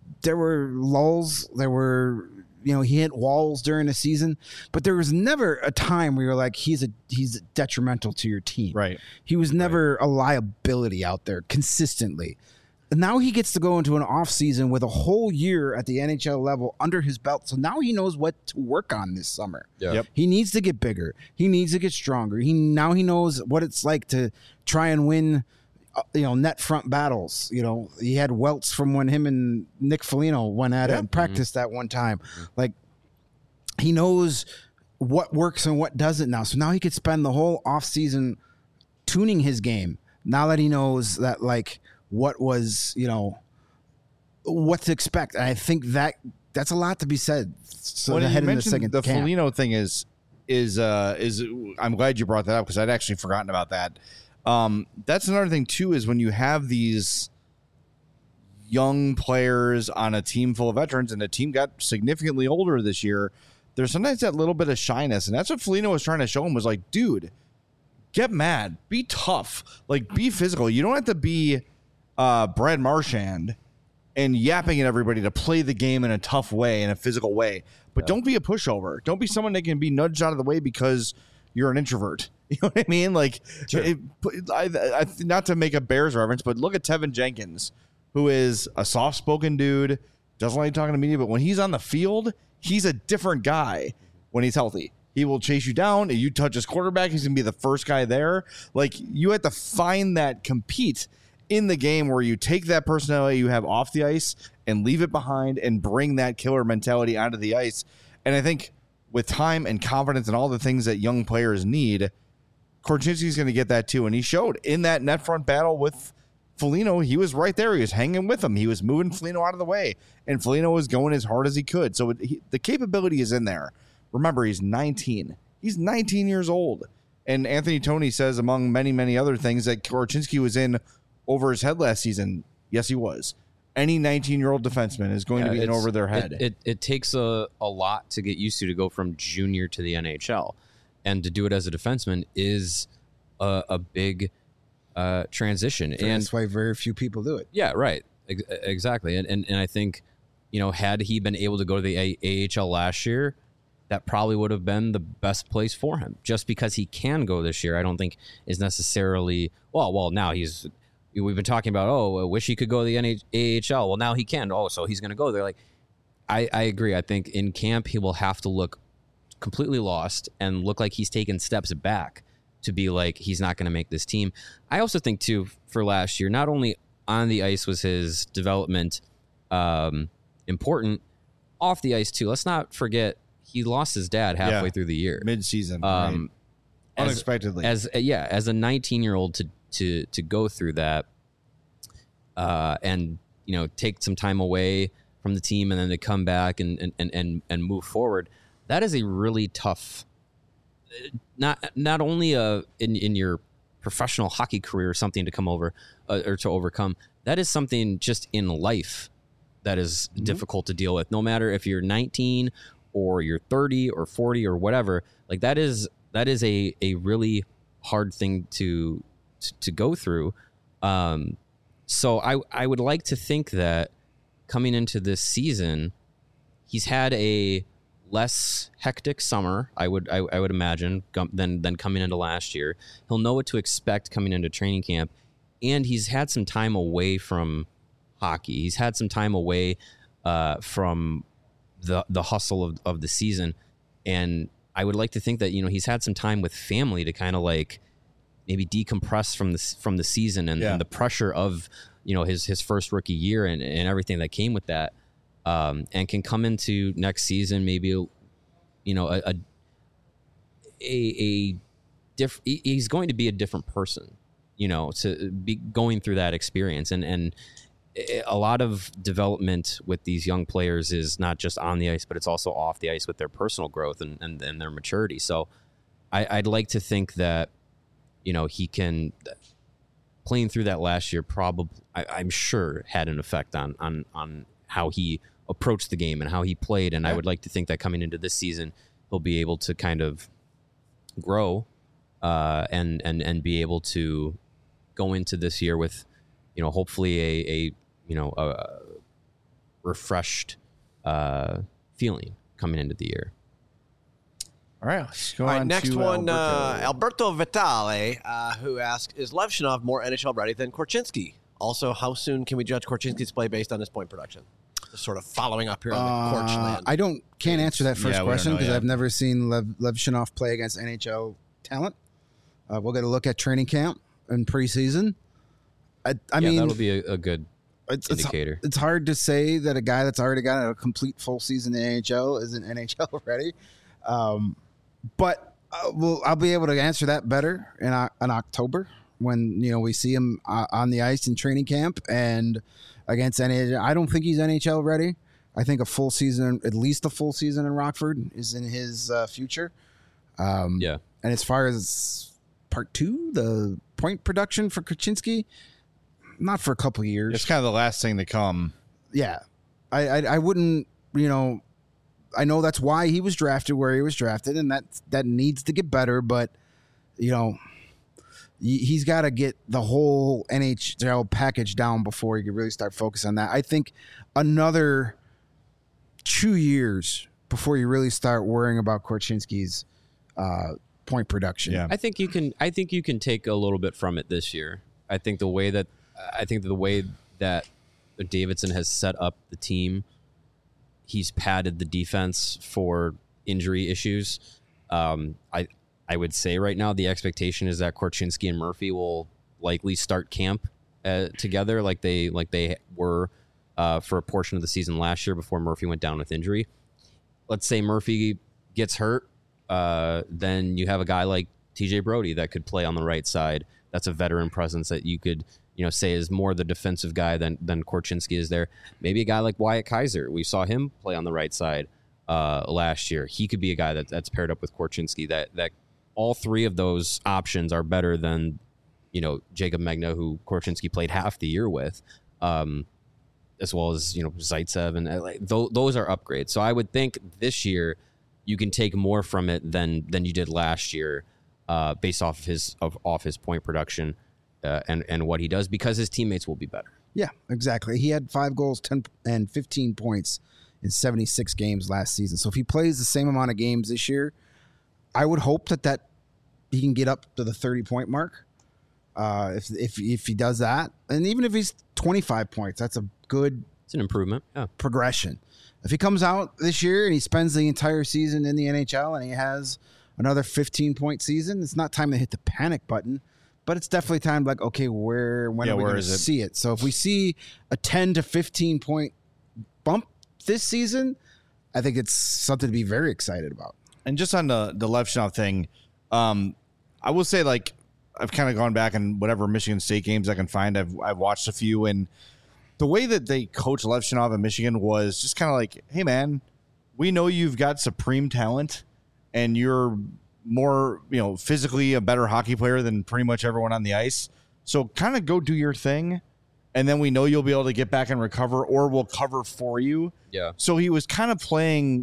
lulls, there were. He hit walls during the season, but there was never a time where you're like, he's detrimental to your team. Right. He was never a liability out there consistently. And now he gets to go into an off season with a whole year at the NHL level under his belt. So now he knows what to work on this summer. Yeah. Yep. He needs to get bigger. He needs to get stronger. Now he knows what it's like to try and win net front battles. He had welts from when him and Nick Foligno went at it and practiced that one time. He knows what works and what doesn't now. So now he could spend the whole offseason tuning his game. Now that he knows that what was, what to expect. And I think that's a lot to be said. So when ahead you in the second the camp. Foligno thing is I'm glad you brought that up, because I'd actually forgotten about that. That's another thing too, is when you have these young players on a team full of veterans, and the team got significantly older this year, there's sometimes that little bit of shyness. And that's what Foligno was trying to show him, was dude, get mad, be tough, be physical. You don't have to be Brad Marchand and yapping at everybody to play the game in a tough way, in a physical way. But don't be a pushover. Don't be someone that can be nudged out of the way because you're an introvert. You know what I mean? Like, not to make a Bears reference, but look at Tevin Jenkins, who is a soft-spoken dude, doesn't like talking to media, but when he's on the field, he's a different guy when he's healthy. He will chase you down. If you touch his quarterback, he's going to be the first guy there. Like, you have to find that compete in the game where you take that personality you have off the ice and leave it behind and bring that killer mentality onto the ice. And I think with time and confidence and all the things that young players need, Korchinski's going to get that too. And he showed in that net front battle with Foligno, he was right there. He was hanging with him. He was moving Foligno out of the way, and Foligno was going as hard as he could. So the capability is in there. Remember, he's 19. He's 19 years old. And Anthony Toney says, among many, many other things, that Korchinski was in over his head last season. Yes, he was. Any 19-year-old defenseman is going to be in over their head. It takes a lot to get used to go from junior to the NHL. And to do it as a defenseman is a big transition. And that's why very few people do it. Yeah, right. Exactly. And I think, had he been able to go to the AHL last year, that probably would have been the best place for him. Just because he can go this year, I don't think is necessarily, well, now we've been talking about, I wish he could go to the AHL. Well, now he can. So he's going to go there. Like, I agree. I think in camp, he will have to look completely lost and look like he's taken steps back to be like, he's not going to make this team. I also think too, for last year, not only on the ice was his development important, off the ice too. Let's not forget he lost his dad halfway through the year, mid-season, right. Unexpectedly. As a 19-year-old to go through that, and take some time away from the team and then to come back and move forward. That is a really tough, not only in your professional hockey career, something to come over or to overcome. That is something just in life that is difficult to deal with. No matter if you're 19 or you're 30 or 40 or whatever, like that is a really hard thing to go through. So I would like to think that coming into this season, he's had a less hectic summer, I would imagine, than coming into last year. He'll know what to expect coming into training camp, and he's had some time away from hockey. He's had some time away from the hustle of the season, and I would like to think that he's had some time with family to kind of like maybe decompress from the season and the pressure of his first rookie year and everything that came with that. And can come into next season maybe, he's going to be a different person, to be going through that experience. And a lot of development with these young players is not just on the ice, but it's also off the ice with their personal growth and their maturity. So I'd like to think that, he can, playing through that last year, probably, I'm sure had an effect on how he approached the game and how he played. And I would like to think that coming into this season, he'll be able to kind of grow and be able to go into this year with, hopefully a refreshed feeling coming into the year. All right, let's go All right, on next to one, Alberto. Alberto Vitale, who asks, is Levshinov more NHL ready than Korchinski? Also, how soon can we judge Korchinski's play based on his point production? Just sort of following up here on the Korch land. I can't answer that first question because yet. I've never seen Levshinov play against NHL talent. We'll get a look at training camp and preseason. I mean, that'll be a good indicator. It's hard to say that a guy that's already got a complete full season in the NHL isn't NHL ready. But I'll be able to answer that better in October when we see him on the ice in training camp and against NHL. I don't think he's NHL ready. I think a full season, at least a full season in Rockford, is in his future. And as far as part two, the point production for Korchinski, not for a couple of years. It's kind of the last thing to come. Yeah, I wouldn't. I know that's why he was drafted where he was drafted, and that needs to get better. But he's got to get the whole NHL package down before he can really start focusing on that. I think another 2 years before you really start worrying about Korchinski's point production. Yeah. I think you can take a little bit from it this year. I think the way that Davidson has set up the team, he's padded the defense for injury issues. I would say right now the expectation is that Korchinski and Murphy will likely start camp together like they were for a portion of the season last year before Murphy went down with injury. Let's say Murphy gets hurt, then you have a guy like TJ Brody that could play on the right side. That's a veteran presence that you could say is more the defensive guy than Korchinski is there. Maybe a guy like Wyatt Kaiser. We saw him play on the right side last year. He could be a guy that's paired up with Korchinski. That all three of those options are better than Jacob Megna, who Korchinski played half the year with, as well as Zaitsev, and those are upgrades. So I would think this year you can take more from it than you did last year, based off of his point production and what he does, because his teammates will be better. Yeah, exactly. He had 5 goals, 10 and 15 points in 76 games last season. So if he plays the same amount of games this year, I would hope that he can get up to the 30-point mark. If he does that, and even if he's 25 points, that's a good. It's an improvement. Yeah. Progression. If he comes out this year and he spends the entire season in the NHL and he has another 15-point season, it's not time to hit the panic button, but it's definitely time like, okay, when are we going to see it? So if we see a 10 to 15 point bump this season, I think it's something to be very excited about. And just on the Levshunov thing, I will say, like, I've kind of gone back and whatever Michigan State games I can find, I've watched a few, and the way that they coach Levshunov in Michigan was just kind of like, hey man, we know you've got supreme talent and you're more, physically a better hockey player than pretty much everyone on the ice. So kind of go do your thing. And then we know you'll be able to get back and recover, or we'll cover for you. Yeah. So he was kind of playing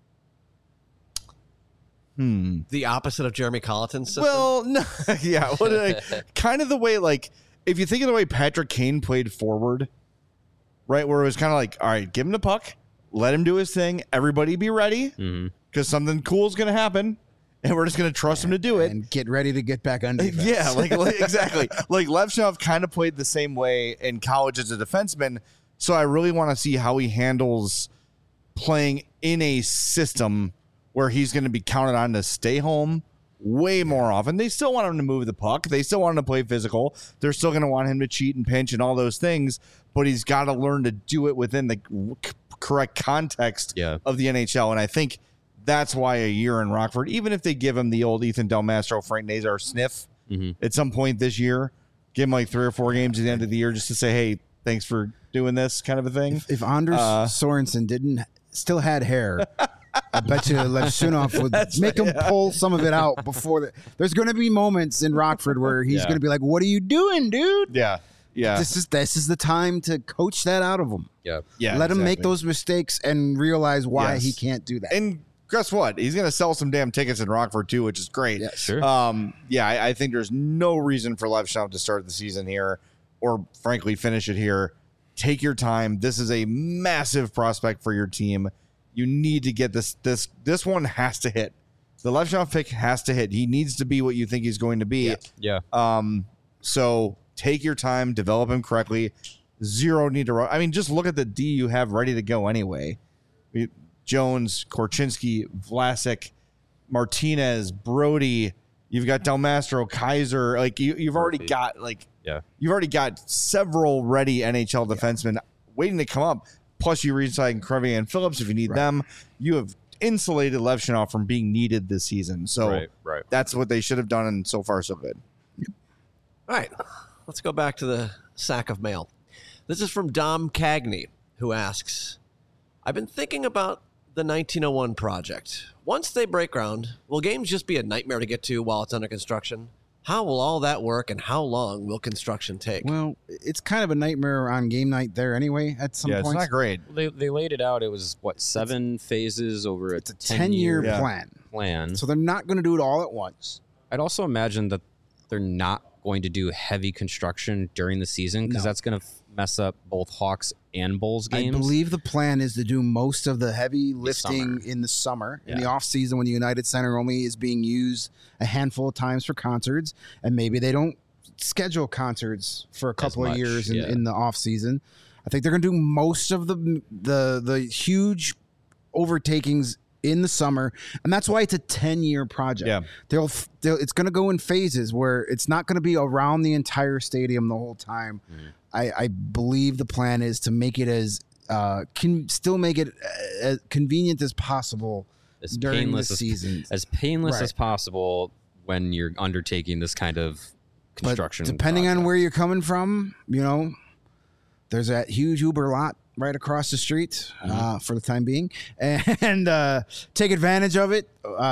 the opposite of Jeremy Colleton's system. Well, no, yeah. Kind of the way, like, if you think of the way Patrick Kane played forward, right, where it was kind of like, all right, give him the puck, let him do his thing, everybody be ready, because something cool is going to happen, and we're just going to trust him to do it. And get ready to get back on defense. Yeah, like exactly. Like, Levshunov kind of played the same way in college as a defenseman, so I really want to see how he handles playing in a system where he's going to be counted on to stay home way more often. They still want him to move the puck. They still want him to play physical. They're still going to want him to cheat and pinch and all those things, but he's got to learn to do it within the correct context of the NHL. And I think that's why a year in Rockford, even if they give him the old Ethan Del Mastro, Frank Nazar sniff at some point this year, give him like 3 or 4 games at the end of the year just to say, hey, thanks for doing this kind of a thing. If Anders Sorensen still had hair, I bet you Levshunov would make him pull some of it out before there's going to be moments in Rockford where he's going to be like, "What are you doing, dude?" Yeah. This is the time to coach that out of him. Yeah. Let him make those mistakes and realize why he can't do that. And guess what? He's going to sell some damn tickets in Rockford too, which is great. Yeah, sure. I think there's no reason for Levshunov to start the season here, or frankly finish it here. Take your time. This is a massive prospect for your team. You need to get this one has to hit. The Levshunov pick has to hit. He needs to be what you think he's going to be. Yeah. So take your time, develop him correctly. Zero need to run. I mean, just look at the D you have ready to go anyway. Jones, Korchinski, Vlasic, Martinez, Brody. You've got Del Mastro, Kaiser. Like you've already got you've already got several ready NHL defensemen waiting to come up. Plus, you re-sign Crevier and Phillips if you need them. You have insulated Levshunov from being needed this season. So that's what they should have done, and so far, so good. All right, let's go back to the sack of mail. This is from Dom Cagney, who asks, I've been thinking about the 1901 project. Once they break ground, will games just be a nightmare to get to while it's under construction? How will all that work, and how long will construction take? Well, it's kind of a nightmare on game night there anyway at some point. It's not great. They laid it out. It was, 7 phases over a 10-year plan. So they're not going to do it all at once. I'd also imagine that they're not going to do heavy construction during the season because that's going to mess up both Hawks and Bulls games. I believe the plan is to do most of the heavy lifting summer. in the summer, in the Yeah. off season when the United Center only is being used a handful of times for concerts, and maybe they don't schedule concerts for a couple of much, years yeah. in the off season. I think they're going to do most of the huge overtakings in the summer, and that's why it's a 10-year project. Yeah. They'll it's going to go in phases where it's not going to be around the entire stadium the whole time. I believe the plan is to make it as still make it as convenient as possible as during the painless season. as painless Right. as possible when you're undertaking this kind of construction. But depending on project. where you're coming from, there's that huge Uber lot right across the street for the time being, and take advantage of it.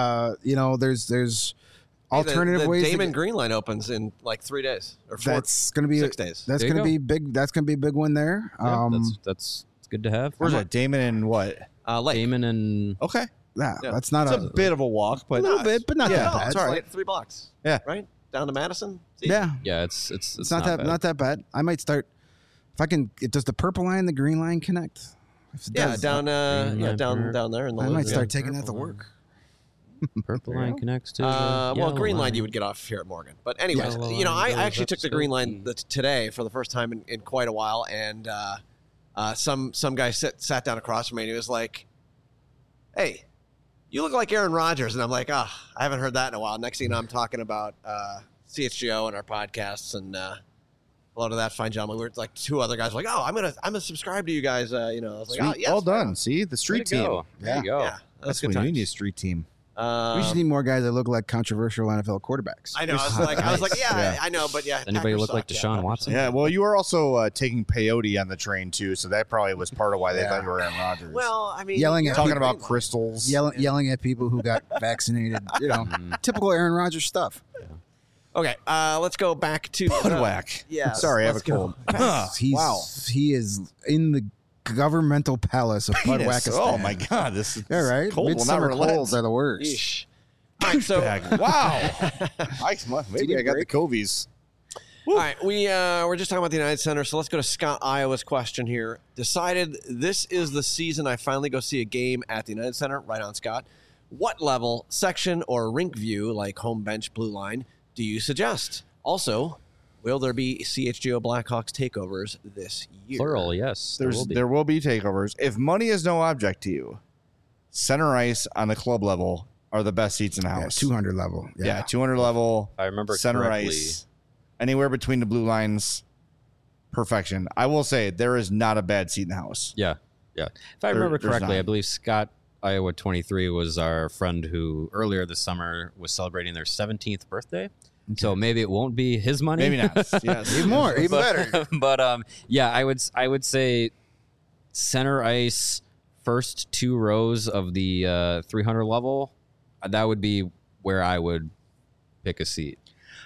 There's alternative the ways. Damon Green line opens in like 3 days or That's going to be 6 days. That's There you going to go. be big. That's going to be a big one there. Yeah, that's good to have. Where's that? Damon and what? Lake. Damon and Okay. yeah, Yeah. that's not It's a bit of a walk, but a little bit, but not Yeah, that No, bad. it's all right. like 3 blocks. Yeah. Right down to Madison. It's easy. Yeah, yeah, it's it's not that bad. I might start if I can. Does the purple line and the green line connect? If it Yeah, does, down Green line down there in the I might Lizard. start taking that to work. Purple line connects to. the Well, yellow Green Line you would get off here at Morgan. But anyways, Yellow I line goes actually up took the Green Line Skokie. today for the first time in quite a while, and some guy sat down across from me and he was like, "Hey, you look like Aaron Rodgers," and I'm like, "I haven't heard that in a while." Next thing you know, I'm talking about CHGO and our podcasts and. Hello to that fine gentleman. We were like 2 other guys were like, I'm gonna subscribe to you guys. I was like, Sweet. oh, yes, Well right done. on. See the street There you team. go. There you go. Yeah, that's good what we times. need, a street team. We just need more guys that look like controversial NFL quarterbacks. I know. I was like, yeah, I know, but yeah. Anybody Packers look like suck. Deshaun Packers Watson? suck. Yeah. Well, you were also taking peyote on the train too, so that probably was part of why they thought you were Aaron Rodgers. Well, I mean, Yelling you're at talking on about Green crystals. Yelling at people who got vaccinated. Typical Aaron Rodgers stuff. Line. Okay, let's go back to Budwhack. yeah. Sorry, I have a let's go. cold. He is in the governmental palace of Budwhackistan. Oh my God, this is All right, cold will not midsummer relent. colds are the worst. Yeesh. All right, so Wow. Maybe I got the break? Covies. all right, we're just talking about the United Center, so let's go to Scott Iowa's question here. Decided this is the season I finally go see a game at the United Center. Right on, Scott. What level, section, or rink view, like home bench, blue line, do you suggest? Also, will there be CHGO Blackhawks takeovers this year? Plural, yes. There will be takeovers. If money is no object to you, center ice on the club level are the best seats in the Yeah, house. 200 level. Yeah, 200 level. I remember center correctly. ice, anywhere between the blue lines, perfection. I will say there is not a bad seat in the house. Yeah, yeah. If I remember there's correctly, not. I believe Scott Iowa 23 was our friend who earlier this summer was celebrating their 17th birthday. So maybe it won't be his money. Maybe not. Yes. Even more, even but, better. But yeah, I would say center ice, first 2 rows of the 300 level. That would be where I would pick a seat.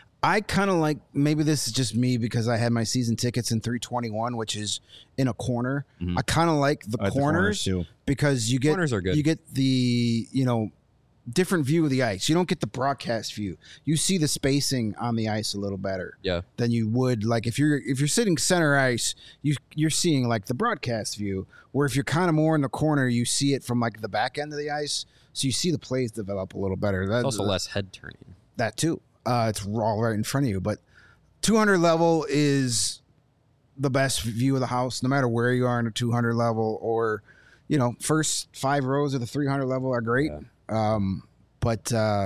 I kind of like, maybe this is just me because I had my season tickets in 321, which is in a corner. I kind of like the I like the corners too. because you get Corners are good. You get the different view of the ice. You don't get the broadcast view. You see the spacing on the ice a little better Yeah. than you would like if you're sitting center ice. You're seeing like the broadcast view. Where if you're kind of more in the corner, you see it from like the back end of the ice, so you see the plays develop a little better. It's also less head turning. That too. It's all right in front of you. But 200 level is the best view of the house, no matter where you are in the 200 level or, first 5 rows of the 300 level are great. But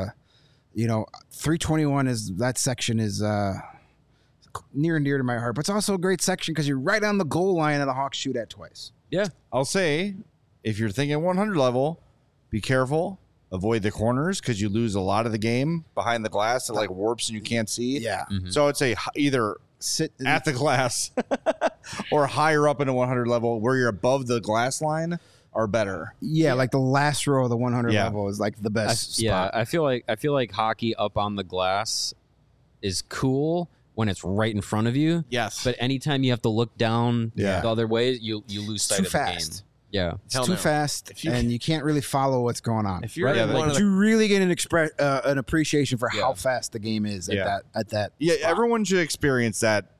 321 that section is near and dear to my heart. But it's also a great section because you're right on the goal line of the Hawks shoot at twice. Yeah. I'll say, if you're thinking 100 level, be careful. Avoid the corners because you lose a lot of the game behind the glass. It like warps and you can't see. Yeah. So I'd say either Sit at the glass or higher up in a 100 level where you're above the glass line are better. Yeah, like the last row of the 100 Yeah. level is like the best Yeah, spot. I feel like hockey up on the glass is cool when it's right in front of you. Yes. But anytime you have to look down Yeah. the other way, you lose sight too of the fast. game. Yeah. It's Hell too no. fast, If you- and you can't really follow what's going on. if you're Right, in yeah, one of But the you really get an appreciation for how Yeah. fast the game is Yeah. at that. Yeah, spot. everyone should experience that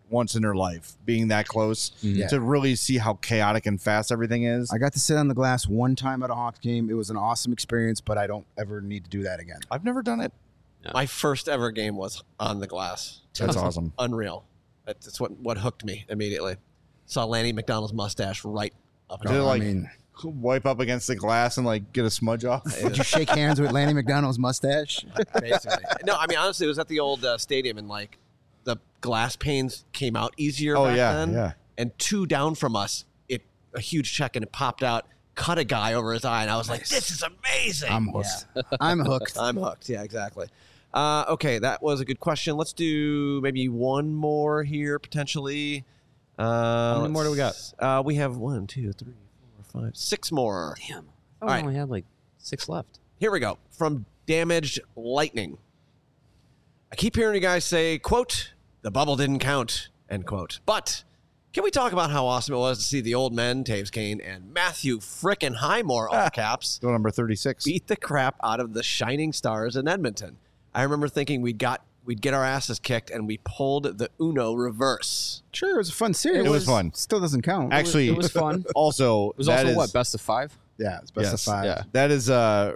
once in their life, being that close Yeah. to really see how chaotic and fast everything is. I got to sit on the glass one time at a Hawks game. It was an awesome experience, but I don't ever need to do that again. I've never done it. My first ever game was on the glass. That's awesome. Unreal. That's what hooked me immediately. Saw Lanny McDonald's mustache right up. Did it, I like, mean, wipe up against the glass and like get a smudge off? did you shake hands with Lanny McDonald's mustache? Basically. No, I mean honestly, it was at the old stadium, and like the glass panes came out easier. Oh, back yeah, then. yeah. And 2 down from us, a huge check, and it popped out, cut a guy over his eye, and I was like, "This is amazing." I'm hooked. I'm hooked. I'm hooked. Yeah, exactly. Okay, that was a good question. Let's do maybe one more here potentially. How many more do we got? We have 1, 2, 3, 4, 5, 6 more. Damn. I All thought right. we only had like 6 left. Here we go. From Damaged Lightning. I keep hearing you guys say, quote, "The bubble didn't count," end quote. But can we talk about how awesome it was to see the old men, Taves Kane and Matthew frickin' Highmore, all caps, Go number 36. beat the crap out of the Shining Stars in Edmonton? I remember thinking we'd get our asses kicked, and we pulled the Uno reverse. Sure, it was a fun series. It was fun. Still doesn't count. Actually, It was fun. Also, It was that also is- what, best of 5? yeah, it's best of Yes, 5. yeah. That is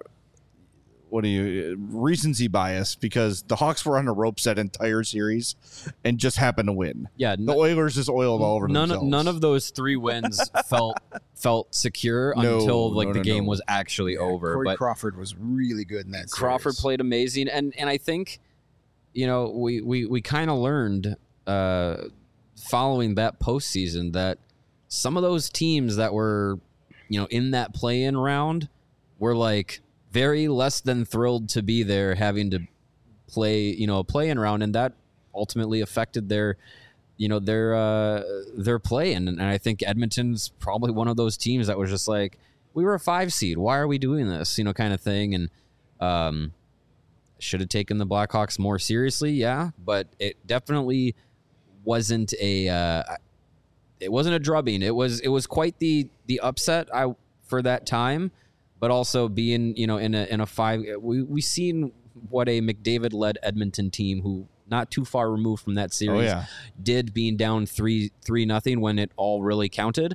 recency bias, because the Hawks were on a ropes that entire series and just happened to win. Yeah, The Oilers just oiled all over themselves. none of those 3 wins felt secure No, until like no, the no, game no. was actually over. Corey But Crawford was really good in that series. Crawford played amazing, and I think, you know, we kind of learned following that postseason that some of those teams that were, you know, in that play-in round were like very less than thrilled to be there, having to play, you know, a play-in round, and that ultimately affected their, you know, their play. And I think Edmonton's probably one of those teams that was just like, we were a 5 seed, why are we doing this, you know, kind of thing. And should have taken the Blackhawks more seriously, yeah, but it definitely wasn't a drubbing. It was quite the upset for that time, but also being, you know, in a 5, we seen what a McDavid led Edmonton team, who not too far removed from that series, did, being down 3-0 when it all really counted.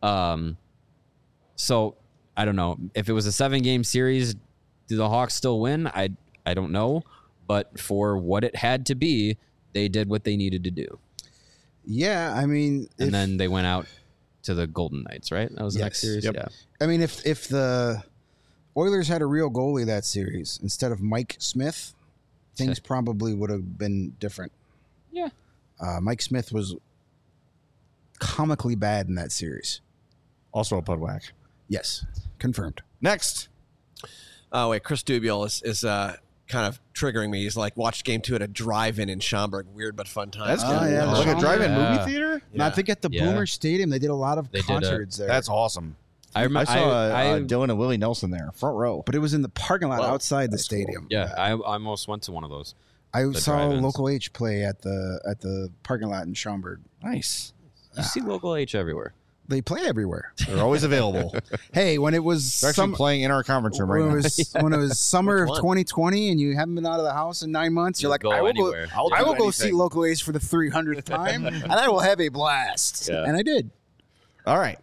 So I don't know if it was a 7-game series, do the Hawks still win? I don't know, but for what it had to be, they did what they needed to do. Yeah, I mean, And then they went out to the Golden Knights, right? That was the next Yes. series. Yep. Yeah. I mean, if the Oilers had a real goalie that series instead of Mike Smith, things probably would have been different. Yeah. Mike Smith was comically bad in that series. Also a Pudwack. Yes, confirmed. Next. Oh wait, Chris Dubiel is kind of triggering me. He's like, watched game 2 at a drive-in in Schaumburg. Weird but fun time. That's Oh, good. yeah, Like a drive-in Yeah. movie theater? Now, I think at the Yeah. Boomer Stadium, they did a lot of They did, concerts there. That's awesome. I remember. I saw I Dylan and Willie Nelson there, front row. but it was in the parking lot Well, outside the that's cool. stadium. yeah, I almost went to one of those. I The saw drive-ins. Local H play at the parking lot in Schaumburg. Nice. You see local H everywhere. They play everywhere. They're always available. Hey, when it was They're actually playing in our conference room right when now. it was when it was summer Which of one? 2020 and you haven't been out of the house in 9 months, you're You'll like, go I will go. anywhere. I'll I do will go see anything. Local Ace for the 300th time, and I will have a blast. Yeah. And I did. All right.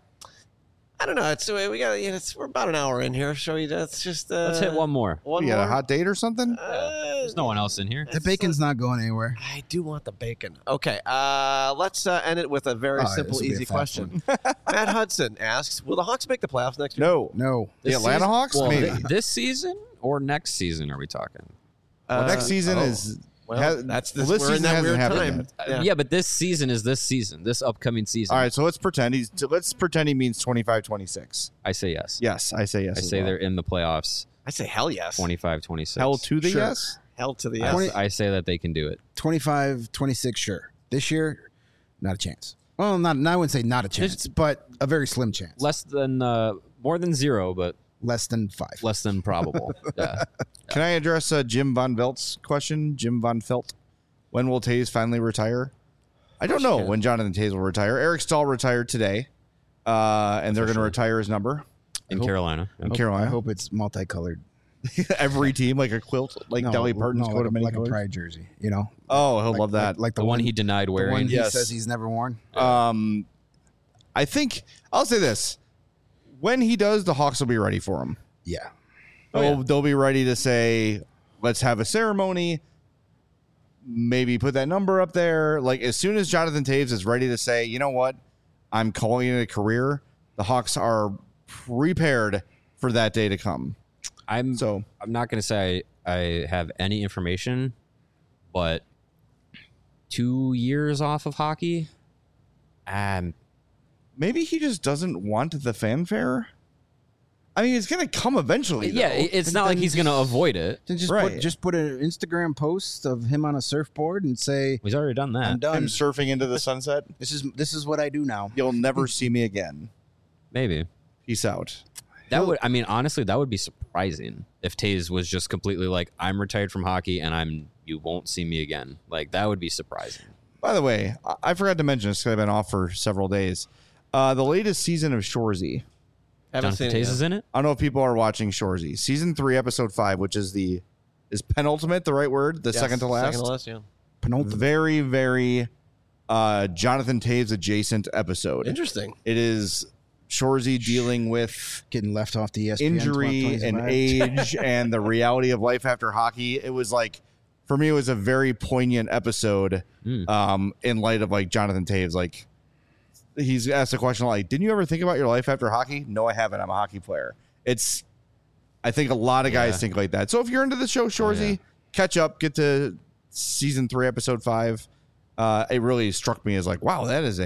I don't know. We got. We're about an hour in here. Shall we? Let's just Let's hit one more. One You got more. a hot date or something? There's no one else in here. The bacon's not going anywhere. I do want the bacon. Okay, let's end it with a very Oh, simple, this will be a easy fast question. Matt Hudson asks, will the Hawks make the playoffs next year? No. No. The This Atlanta season- Hawks? well, Maybe. This season or next season are we talking? Well, next season oh. is... Well, has- that's well, this. this We're in season that hasn't weird happened time. Yeah, but this season is this season, this upcoming season. All right, so let's pretend he means 25-26. I say yes. Yes, I say yes. I as say well. they're in the playoffs. I say hell yes. 25-26. Hell to the Sure. yes? Hell to the I, yes. I say that they can do it. 25, 26, sure. This year, not a chance. Well, not. I wouldn't say not a chance, but a very slim chance. Less than more than 0, but Less than 5. less than probable. Yeah. Can I address Jim Von Velt's question? Jim Von Felt. When will Taze finally retire? I don't know when Jonathan Taze will retire. Eric Stahl retired today, and they're going to retire his number In Carolina. in Carolina. I hope it's multicolored. Every team, like a quilt, like Dolly Parton's coat of many like a colors. Pride jersey, you know. Oh, he'll love that. Like The one he denied the wearing. one he Yes. says he's never worn. I think I'll say this: when he does, the Hawks will be ready for him. Yeah. They'll be ready to say, "Let's have a ceremony." Maybe put that number up there. Like as soon as Jonathan Toews is ready to say, "You know what? I'm calling it a career." The Hawks are prepared for that day to come. I'm So not going to say I have any information, but 2 years off of hockey. maybe he just doesn't want the fanfare. I mean, it's going to come eventually. Yeah, though. it's not like he's going to avoid it. Then Right. just put an Instagram post of him on a surfboard and say, He's already done "I'm that. done. Him surfing into the sunset. This is what I do now." You'll never see me again. Maybe. Peace out. That would, I mean, honestly, that would be surprising if Taze was just completely like, I'm retired from hockey and you won't see me again. Like, that would be surprising. By the way, I forgot to mention this because I've been off for several days. The latest season of Shoresy. Haven't Jonathan seen it Taze yet. is in it? I don't know if people are watching Shoresy. Season 3, episode 5, which is is penultimate the right word? The Yes, second to last? Second to last, yeah. Penultimate. Very, very Jonathan Taves adjacent episode. Interesting. It is Shoresy dealing with Getting left off the ESPN injury 2025. and age and the reality of life after hockey. It was like, for me, it was a very poignant episode in light of like Jonathan Taves. Like, he's asked a question like, didn't you ever think about your life after hockey? No, I haven't. I'm a hockey player. I think a lot of guys think like that. So if you're into the show, Shoresy, catch up, get to season 3, episode 5. It really struck me as like, wow, that is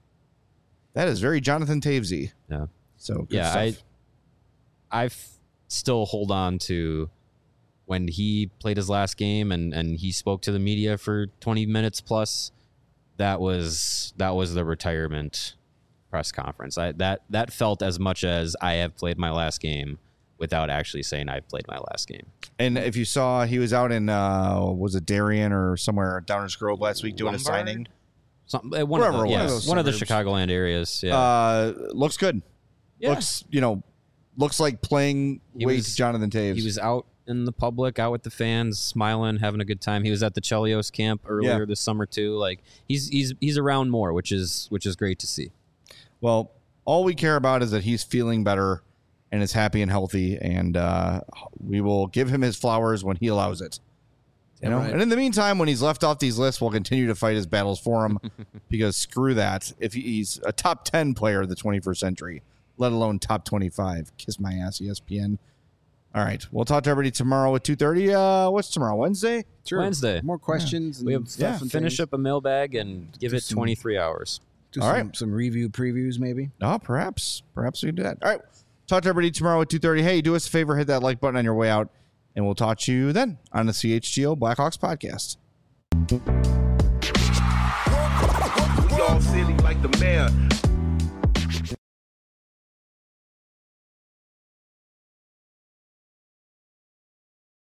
very Jonathan Tavesy. Yeah. So good Yeah, stuff. I still hold on to when he played his last game and he spoke to the media for 20 minutes plus. That was the retirement press conference. That felt as much as I have played my last game without actually saying I've played my last game. And if you saw, he was out in was it Darien or somewhere Downers Grove last week doing Lombard? a signing. One of Wherever the, it was. Chicagoland areas. Yeah. Looks good. Yeah. Looks like playing weight Jonathan Taves. He was out in the public, out with the fans, smiling, having a good time. He was at the Chelios camp earlier this summer too. Like he's around more, which is great to see. Well, all we care about is that he's feeling better and is happy and healthy, and we will give him his flowers when he allows it. You know, right. and in the meantime, when he's left off these lists, we'll continue to fight his battles for him because screw that. If he's a top 10 player of the 21st century, let alone top 25, kiss my ass, ESPN. All right, we'll talk to everybody tomorrow at 2:30. What's tomorrow? Wednesday? Sure. Wednesday. More questions. And We have stuff and finish things. up a mailbag and give it some- 23 hours. Do All some, right. some review previews, maybe. Oh, perhaps we can do that. All right, talk to everybody tomorrow at 2:30. Hey, do us a favor, hit that like button on your way out, and we'll talk to you then on the CHGO Blackhawks podcast. We all silly like the mayor.